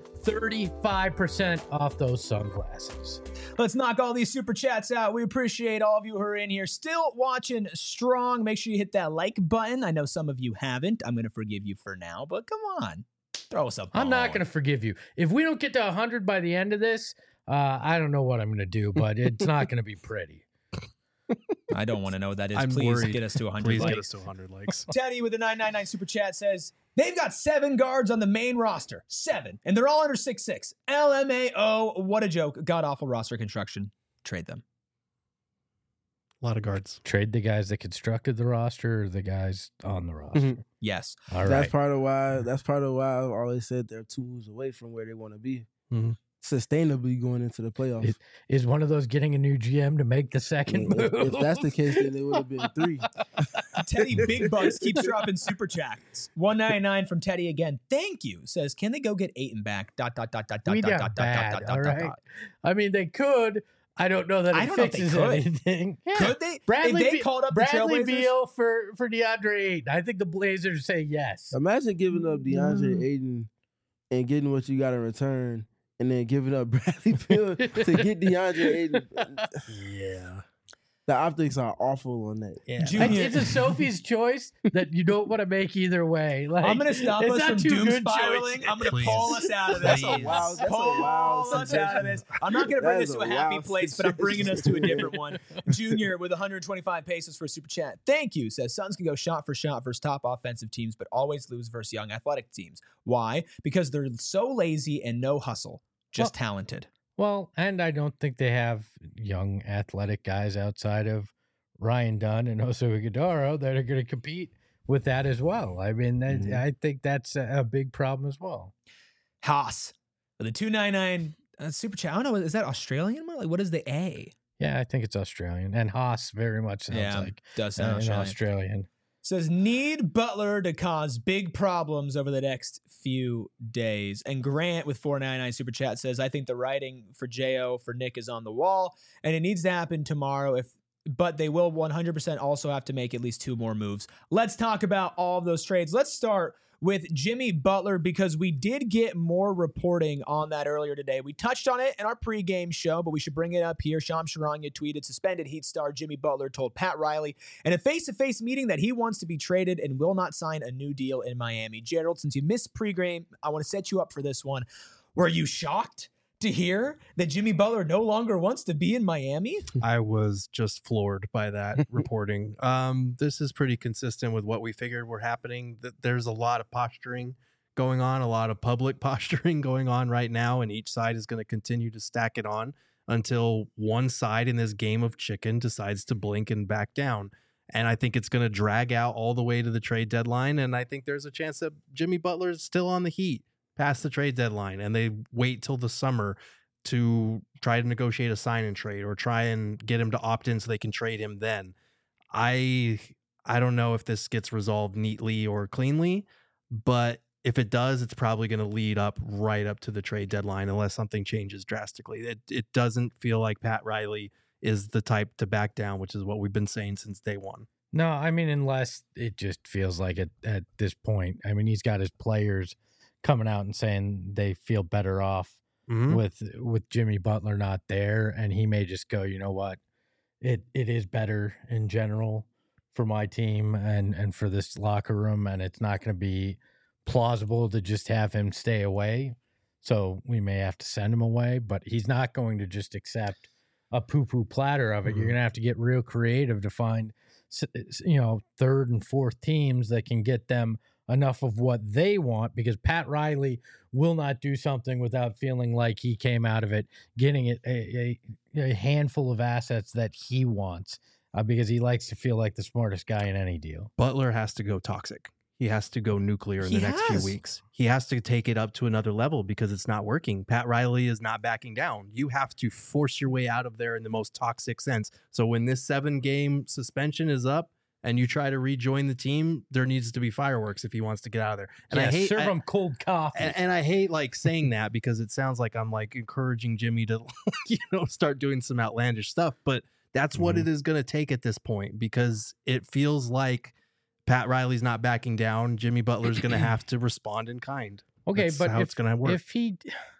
35% off those sunglasses. Let's knock all these super chats out. We appreciate all of you who are in here still watching strong. Make sure you hit that like button. I know some of you haven't. I'm going to forgive you for now, but come on. Throw us up. I'm not going to forgive you. If we don't get to 100 by the end of this, I don't know what I'm going to do, but it's not going to be pretty. I don't want to know what that is. I'm Please worried. Get us to 100 Please likes. get us to 100 likes. Teddy with the 999 super chat says, they've got 7 guards on the main roster. 7. And they're all under 6'6". LMAO. What a joke. God awful roster construction. Trade them. A lot of guards. Trade the guys that constructed the roster or the guys on the roster. Mhm. Yes. All right. That's part of why I've always said they're 2 moves away from where they want to be. Mhm. Sustainably going into the playoffs. Is one of those getting a new GM to make the second move? If that's the case, then it would have been 3. Teddy Big Bucks keeps dropping super chats. 199 from Teddy again. Thank you. Says, can they go get Ayton back? Dot, dot, dot, dot, dot, We dot, down dot, bad, dot, dot, all dot, right? dot. I mean, they could. I don't know that I it don't know if they fixes could. anything. Yeah. Could they? Bradley, if they called up the Bradley Trailblazers? Beal for DeAndre Ayton. I think the Blazers say yes. Imagine giving up DeAndre Ayton and getting what you got in return, and then giving up Bradley Beal to get DeAndre Ayton. Yeah. The optics are awful on that. Yeah. Junior- It's a Sophie's choice that you don't want to make either way. Like, I'm going to stop it's us not from two doom good spiraling. choices. I'm going to Please. pull us out of this. Please. That's a Pull wild us out of this. I'm not going to bring That us is to a a happy wild place, but I'm bringing us to a different one. Junior with 125 pesos for a super chat. Thank you. Says Suns can go shot for shot versus top offensive teams, but always lose versus young athletic teams. Why? Because they're so lazy and no hustle, just talented. Well, and I don't think they have young athletic guys outside of Ryan Dunn and Oso Iguodala that are going to compete with that as well. I mean, I think that's a big problem as well. Haas with a 299 super chat. I don't know. Is that Australian? Like, what is the A? Yeah, I think it's Australian. And Haas very much sounds like does sound an Australian. Australian. Says need Butler to cause big problems over the next few days. And Grant with 499 super chat says, I think the writing for Jo for Nick is on the wall, and it needs to happen tomorrow. But they will 100% also have to make at least 2 more moves. Let's talk about all of those trades. Let's start with Jimmy Butler, because we did get more reporting on that earlier today. We touched on it in our pregame show, but we should bring it up here. Shams Charania tweeted, suspended Heat star Jimmy Butler told Pat Riley in a face-to-face meeting that he wants to be traded and will not sign a new deal in Miami. Gerald, since you missed pregame, I want to set you up for this one. Were you shocked to hear that Jimmy Butler no longer wants to be in Miami? I was just floored by that reporting. This is pretty consistent with what we figured were happening. That there's a lot of posturing going on, a lot of public posturing going on right now, and each side is going to continue to stack it on until one side in this game of chicken decides to blink and back down. And I think it's going to drag out all the way to the trade deadline. And I think there's a chance that Jimmy Butler is still on the Heat past the trade deadline, and they wait till the summer to try to negotiate a sign and trade or try and get him to opt in so they can trade him then. I don't know if this gets resolved neatly or cleanly, but if it does, it's probably going to lead up right up to the trade deadline unless something changes drastically. It doesn't feel like Pat Riley is the type to back down, which is what we've been saying since day one. No, I mean, unless it just feels like it at this point. I mean, he's got his players coming out and saying they feel better off with Jimmy Butler not there, and he may just go, you know what, it is better in general for my team and for this locker room, and it's not going to be plausible to just have him stay away. So we may have to send him away, but he's not going to just accept a poo-poo platter of it. You're going to have to get real creative to find, third and fourth teams that can get them enough of what they want, because Pat Riley will not do something without feeling like he came out of it getting it a handful of assets that he wants, because he likes to feel like the smartest guy in any deal. Butler has to go toxic. He has to go nuclear in the next few weeks. He has to take it up to another level because it's not working. Pat Riley is not backing down. You have to force your way out of there in the most toxic sense. So when this 7-game suspension is up and you try to rejoin the team, there needs to be fireworks if he wants to get out of there. And I hate serve him cold coffee. And I hate like saying that because it sounds like I'm like encouraging Jimmy to start doing some outlandish stuff, but that's what it is going to take at this point, because it feels like Pat Riley's not backing down. Jimmy Butler's going to have to respond in kind. Okay, That's but how it's going to work. If he,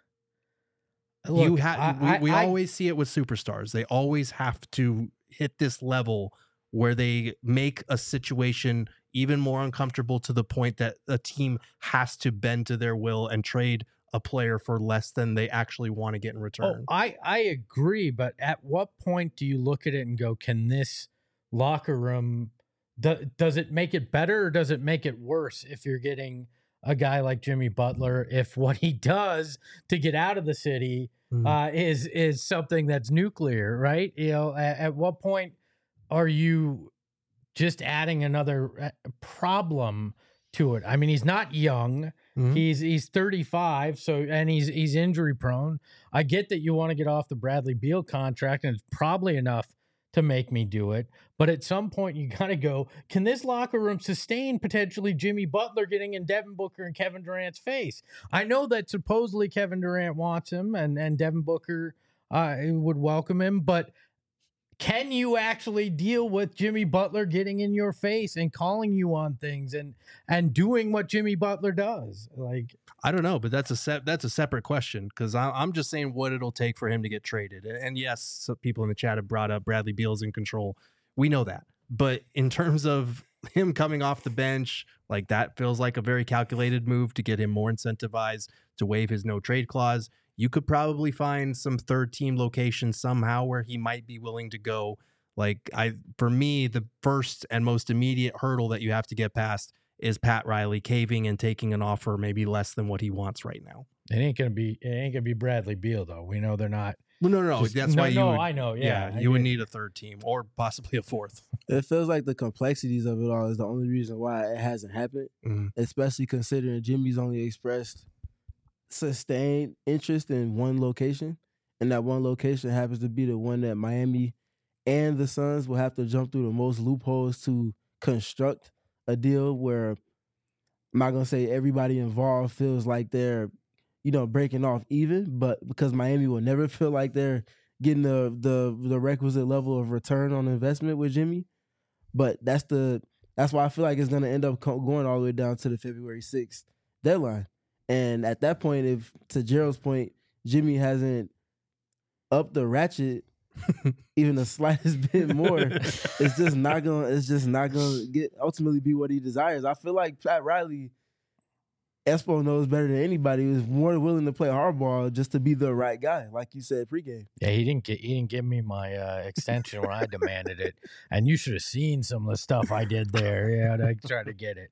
look, we always see it with superstars. They always have to hit this level where they make a situation even more uncomfortable to the point that a team has to bend to their will and trade a player for less than they actually want to get in return. I agree, but at what point do you look at it and go, can this locker room, does it make it better or does it make it worse if you're getting a guy like Jimmy Butler, if what he does to get out of the city is something that's nuclear, right? At what point are you just adding another problem to it? I mean, he's not young. Mm-hmm. He's 35, and he's injury prone. I get that you want to get off the Bradley Beal contract, and it's probably enough to make me do it. But at some point, you got to go, can this locker room sustain potentially Jimmy Butler getting in Devin Booker and Kevin Durant's face? I know that supposedly Kevin Durant wants him and Devin Booker would welcome him, but can you actually deal with Jimmy Butler getting in your face and calling you on things and doing what Jimmy Butler does? Like, I don't know, but that's a separate question, because I'm just saying what it'll take for him to get traded. And yes, some people in the chat have brought up Bradley Beal's in control. We know that. But in terms of him coming off the bench, like, that feels like a very calculated move to get him more incentivized to waive his no trade clause. You could probably find some third team location somehow where he might be willing to go. Like, for me, the first and most immediate hurdle that you have to get past is Pat Riley caving and taking an offer maybe less than what he wants right now. It ain't gonna be Bradley Beal, though. We know they're not. Well, no. That's why you would, I know. Yeah, you would need a third team or possibly a fourth. It feels like the complexities of it all is the only reason why it hasn't happened, especially considering Jimmy's only expressed sustained interest in one location, and that one location happens to be the one that Miami and the Suns will have to jump through the most loopholes to construct a deal where, I'm not gonna say everybody involved feels like they're, breaking off even, but because Miami will never feel like they're getting the requisite level of return on investment with Jimmy. But that's why I feel like it's gonna end up going all the way down to the February 6th deadline. And at that point, if, to Gerald's point, Jimmy hasn't upped the ratchet even the slightest bit more, it's just not gonna ultimately be what he desires. I feel like Pat Riley, Espo knows better than anybody, was more willing to play hardball just to be the right guy, like you said pregame. Yeah, he didn't give me my extension when I demanded it, and you should have seen some of the stuff I did there. Yeah, to try to get it.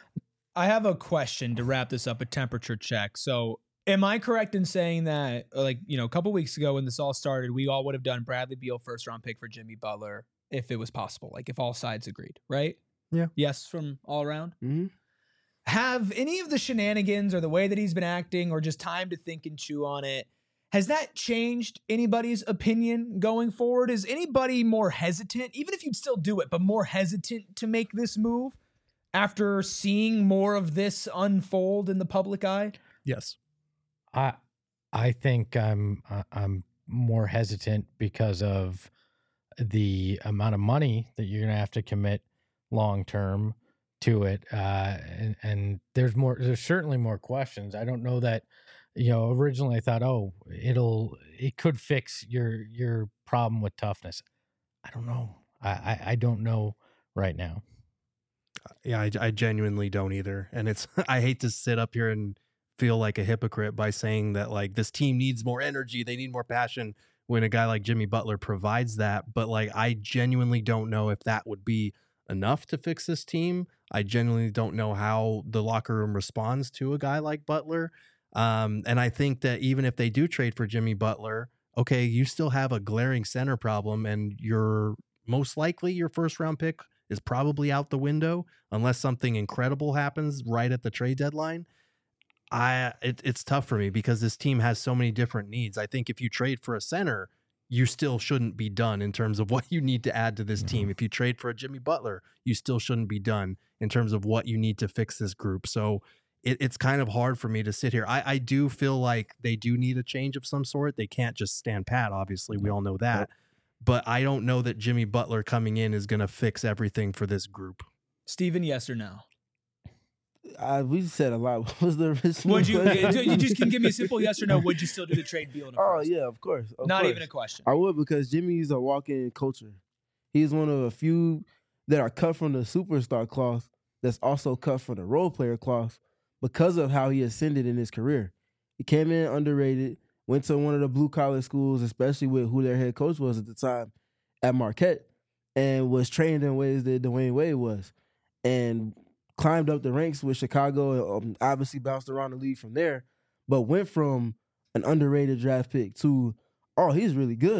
I have a question to wrap this up, a temperature check. So am I correct in saying that, like, a couple weeks ago when this all started, we all would have done Bradley Beal first round pick for Jimmy Butler if it was possible, like if all sides agreed, right? Yeah. Yes, from all around? Mm-hmm. Have any of the shenanigans or the way that he's been acting or just time to think and chew on it, has that changed anybody's opinion going forward? Is anybody more hesitant, even if you'd still do it, but more hesitant to make this move after seeing more of this unfold in the public eye? Yes. I think I'm more hesitant because of the amount of money that you're gonna have to commit long term to it, and there's certainly more questions. I don't know that, originally I thought, it could fix your problem with toughness. I don't know. I don't know right now. Yeah, I genuinely don't either. And I hate to sit up here and feel like a hypocrite by saying that, like, this team needs more energy, they need more passion, when a guy like Jimmy Butler provides that. But, like, I genuinely don't know if that would be enough to fix this team. I genuinely don't know how the locker room responds to a guy like Butler. And I think that even if they do trade for Jimmy Butler, okay, you still have a glaring center problem, and most likely your first round pick is probably out the window unless something incredible happens right at the trade deadline. It's tough for me because this team has so many different needs. I think if you trade for a center, you still shouldn't be done in terms of what you need to add to this team. If you trade for a Jimmy Butler, you still shouldn't be done in terms of what you need to fix this group. So it's kind of hard for me to sit here. I do feel like they do need a change of some sort. They can't just stand pat, obviously. We all know that. But I don't know that Jimmy Butler coming in is going to fix everything for this group. Steven, yes or no? We said a lot. What was the original? Would you just can give me a simple yes or no? Would you still do the trade Beal in a first? Yeah, of course. Not even a question. I would, because Jimmy's a walk-in culture. He's one of a few that are cut from the superstar cloth that's also cut from the role player cloth because of how he ascended in his career. He came in underrated, went to one of the blue-collar schools, especially with who their head coach was at the time at Marquette, and was trained in ways that Dwayne Wade was, and climbed up the ranks with Chicago, and obviously bounced around the league from there, but went from an underrated draft pick to, he's really good,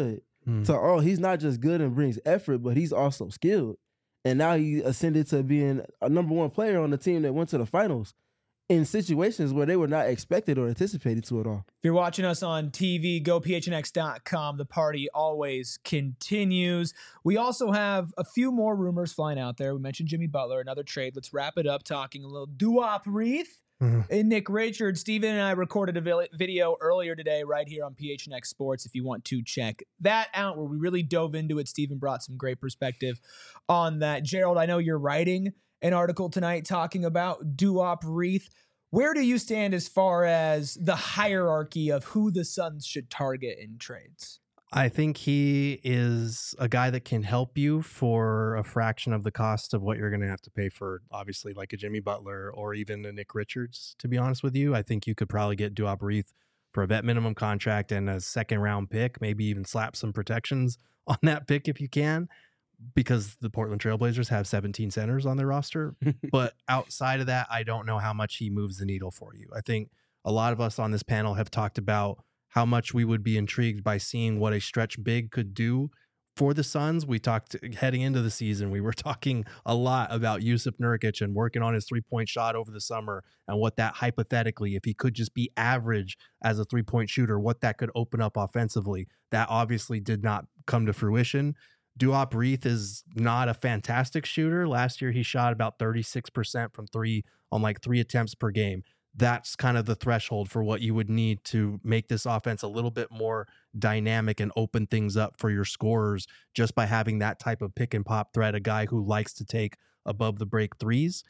So, he's not just good and brings effort, but he's also skilled. And now he ascended to being a number one player on the team that went to the finals in situations where they were not expected or anticipated to at all. If you're watching us on TV, go phnx.com. The party always continues. We also have a few more rumors flying out there. We mentioned Jimmy Butler, another trade. Let's wrap it up talking a little Duop Reath and Nick Richards. Steven and I recorded a video earlier today right here on PHNX Sports if you want to check that out, where we really dove into it. Steven brought some great perspective on that. Gerald, I know you're writing an article tonight talking about Duop Reath. Where do you stand as far as the hierarchy of who the Suns should target in trades? I think he is a guy that can help you for a fraction of the cost of what you're going to have to pay for, obviously, like a Jimmy Butler or even a Nick Richards, to be honest with you. I think you could probably get Duop Reath for a vet minimum contract and a second-round pick, maybe even slap some protections on that pick if you can, because the Portland Trailblazers have 17 centers on their roster. But outside of that, I don't know how much he moves the needle for you. I think a lot of us on this panel have talked about how much we would be intrigued by seeing what a stretch big could do for the Suns. We talked heading into the season, we were talking a lot about Jusuf Nurkic and working on his 3-point shot over the summer and what that hypothetically, if he could just be average as a 3-point shooter, what that could open up offensively. That obviously did not come to fruition. Duop Reath is not a fantastic shooter. Last year, he shot about 36% from three on like 3 attempts per game. That's kind of the threshold for what you would need to make this offense a little bit more dynamic and open things up for your scorers, just by having that type of pick and pop threat, a guy who likes to take above the break threes.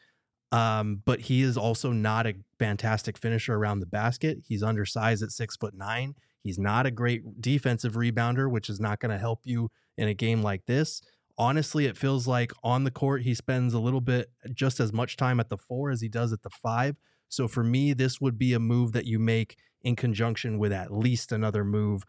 But he is also not a fantastic finisher around the basket. He's undersized at 6'9". He's not a great defensive rebounder, which is not going to help you in a game like this. Honestly, it feels like on the court, he spends a little bit, just as much time at the 4 as he does at the 5. So for me, this would be a move that you make in conjunction with at least another move.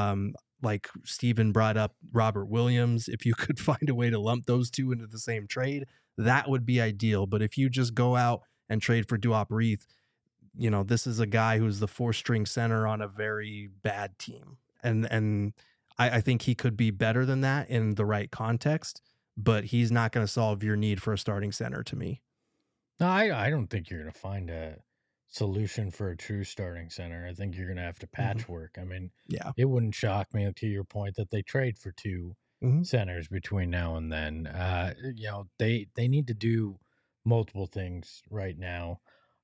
Like Steven brought up Robert Williams. If you could find a way to lump those two into the same trade, that would be ideal. But if you just go out and trade for Duop Reath, you know, this is a guy who's the 4th-string center on a very bad team. And I think he could be better than that in the right context, but he's not going to solve your need for a starting center to me. No, I don't think you're going to find a solution for a true starting center. I think you're going to have to patchwork. I mean, yeah, it wouldn't shock me, to your point, that they trade for 2 centers between now and then. You know, they need to do multiple things right now.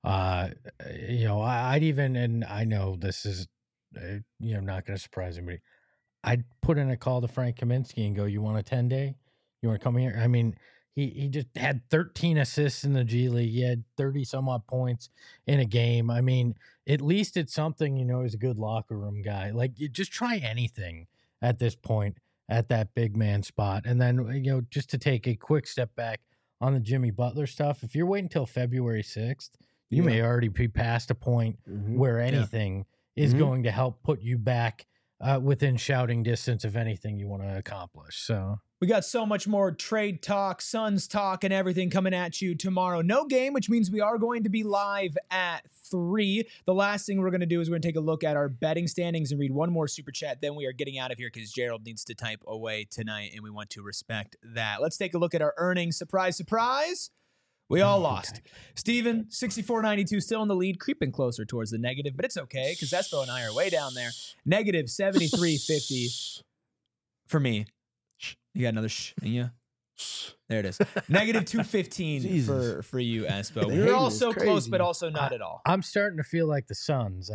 You know, I'd even, and I know this is, you know, not going to surprise anybody, I'd put in a call to Frank Kaminsky and go, you want a 10-day? You want to come here? I mean, he just had 13 assists in the G League. He had 30-some-odd points in a game. I mean, at least it's something, you know, he's a good locker room guy. Like, you just try anything at this point at that big man spot. And then, you know, just to take a quick step back on the Jimmy Butler stuff, if you're waiting until February 6th, you may already be past a point where anything is going to help put you back within shouting distance of anything you want to accomplish. So we got so much more trade talk, Suns talk, and everything coming at you tomorrow. No game, which means we are going to be live at 3. The last thing we're going to do is we're going to take a look at our betting standings and read one more super chat. Then we are getting out of here because Gerald needs to type away tonight, and we want to respect that. Let's take a look at our earnings. Surprise, surprise. We all lost. Steven, 64.92, still in the lead, creeping closer towards the negative, but it's okay because Espo and I are way down there. Negative 73.50 for me. You got another in you? There it is. Negative 215 for you, Espo. We were all so close, but also not at all. I'm starting to feel like the Suns.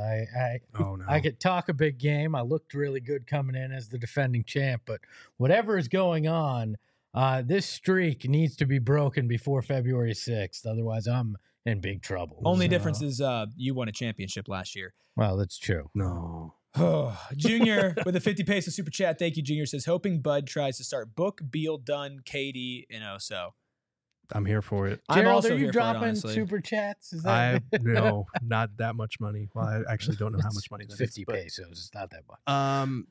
I could talk a big game. I looked really good coming in as the defending champ, but whatever is going on, this streak needs to be broken before February 6th. Otherwise, I'm in big trouble. Only difference is you won a championship last year. Well, that's true. No. Junior with a 50 peso super chat. Thank you, Junior. Says, hoping Bud tries to start Book, Beal, Dunn, KD, and Oso. I'm here for it. Gerald, I'm also are you here dropping for it, super chats? Is that No, not that much money. Well, I actually don't know how much money that 50 is. 50 pesos. It's not that much.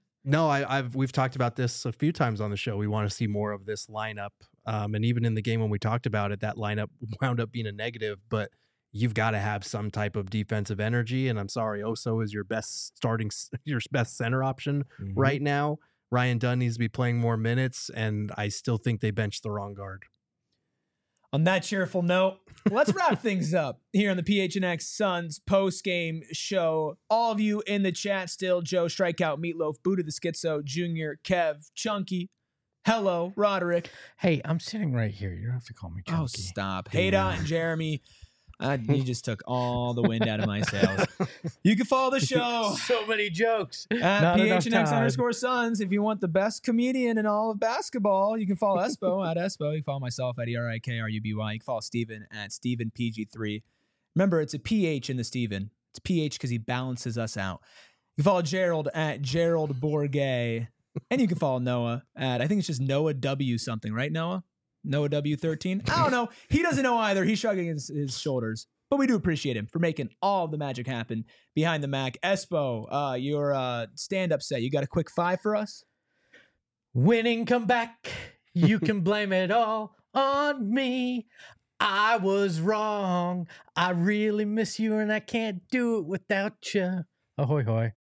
No, we've talked about this a few times on the show. We want to see more of this lineup. And even in the game when we talked about it, that lineup wound up being a negative, but you've got to have some type of defensive energy. And I'm sorry, Oso is your best center option right now. Ryan Dunn needs to be playing more minutes, and I still think they benched the wrong guard. On that cheerful note, let's wrap things up here on the PHNX Suns post-game show. All of you in the chat still, Joe, Strikeout, Meatloaf, Buddha the Schizo, Junior, Kev, Chunky, hello, Roderick. Hey, I'm sitting right here. You don't have to call me Chunky. Oh, stop. Hayda and Jeremy. You just took all the wind out of my sails. You can follow the show So many jokes. at PHNX_Suns. If you want the best comedian in all of basketball, you can follow Espo at Espo. You can follow myself at ERIKRUBY. You can follow Steven at StevenPG3. Remember, it's a PH in the Steven. It's PH because he balances us out. You can follow Gerald at Gerald Bourget. And you can follow Noah at, I think it's just Noah W something, right, Noah? Noah W13. I don't know. He doesn't know either. He's shrugging his shoulders. But we do appreciate him for making all of the magic happen behind the Mac. Espo, your stand-up set. You got a quick 5 for us? Winning comeback. You can blame it all on me. I was wrong. I really miss you and I can't do it without you. Ahoy hoy.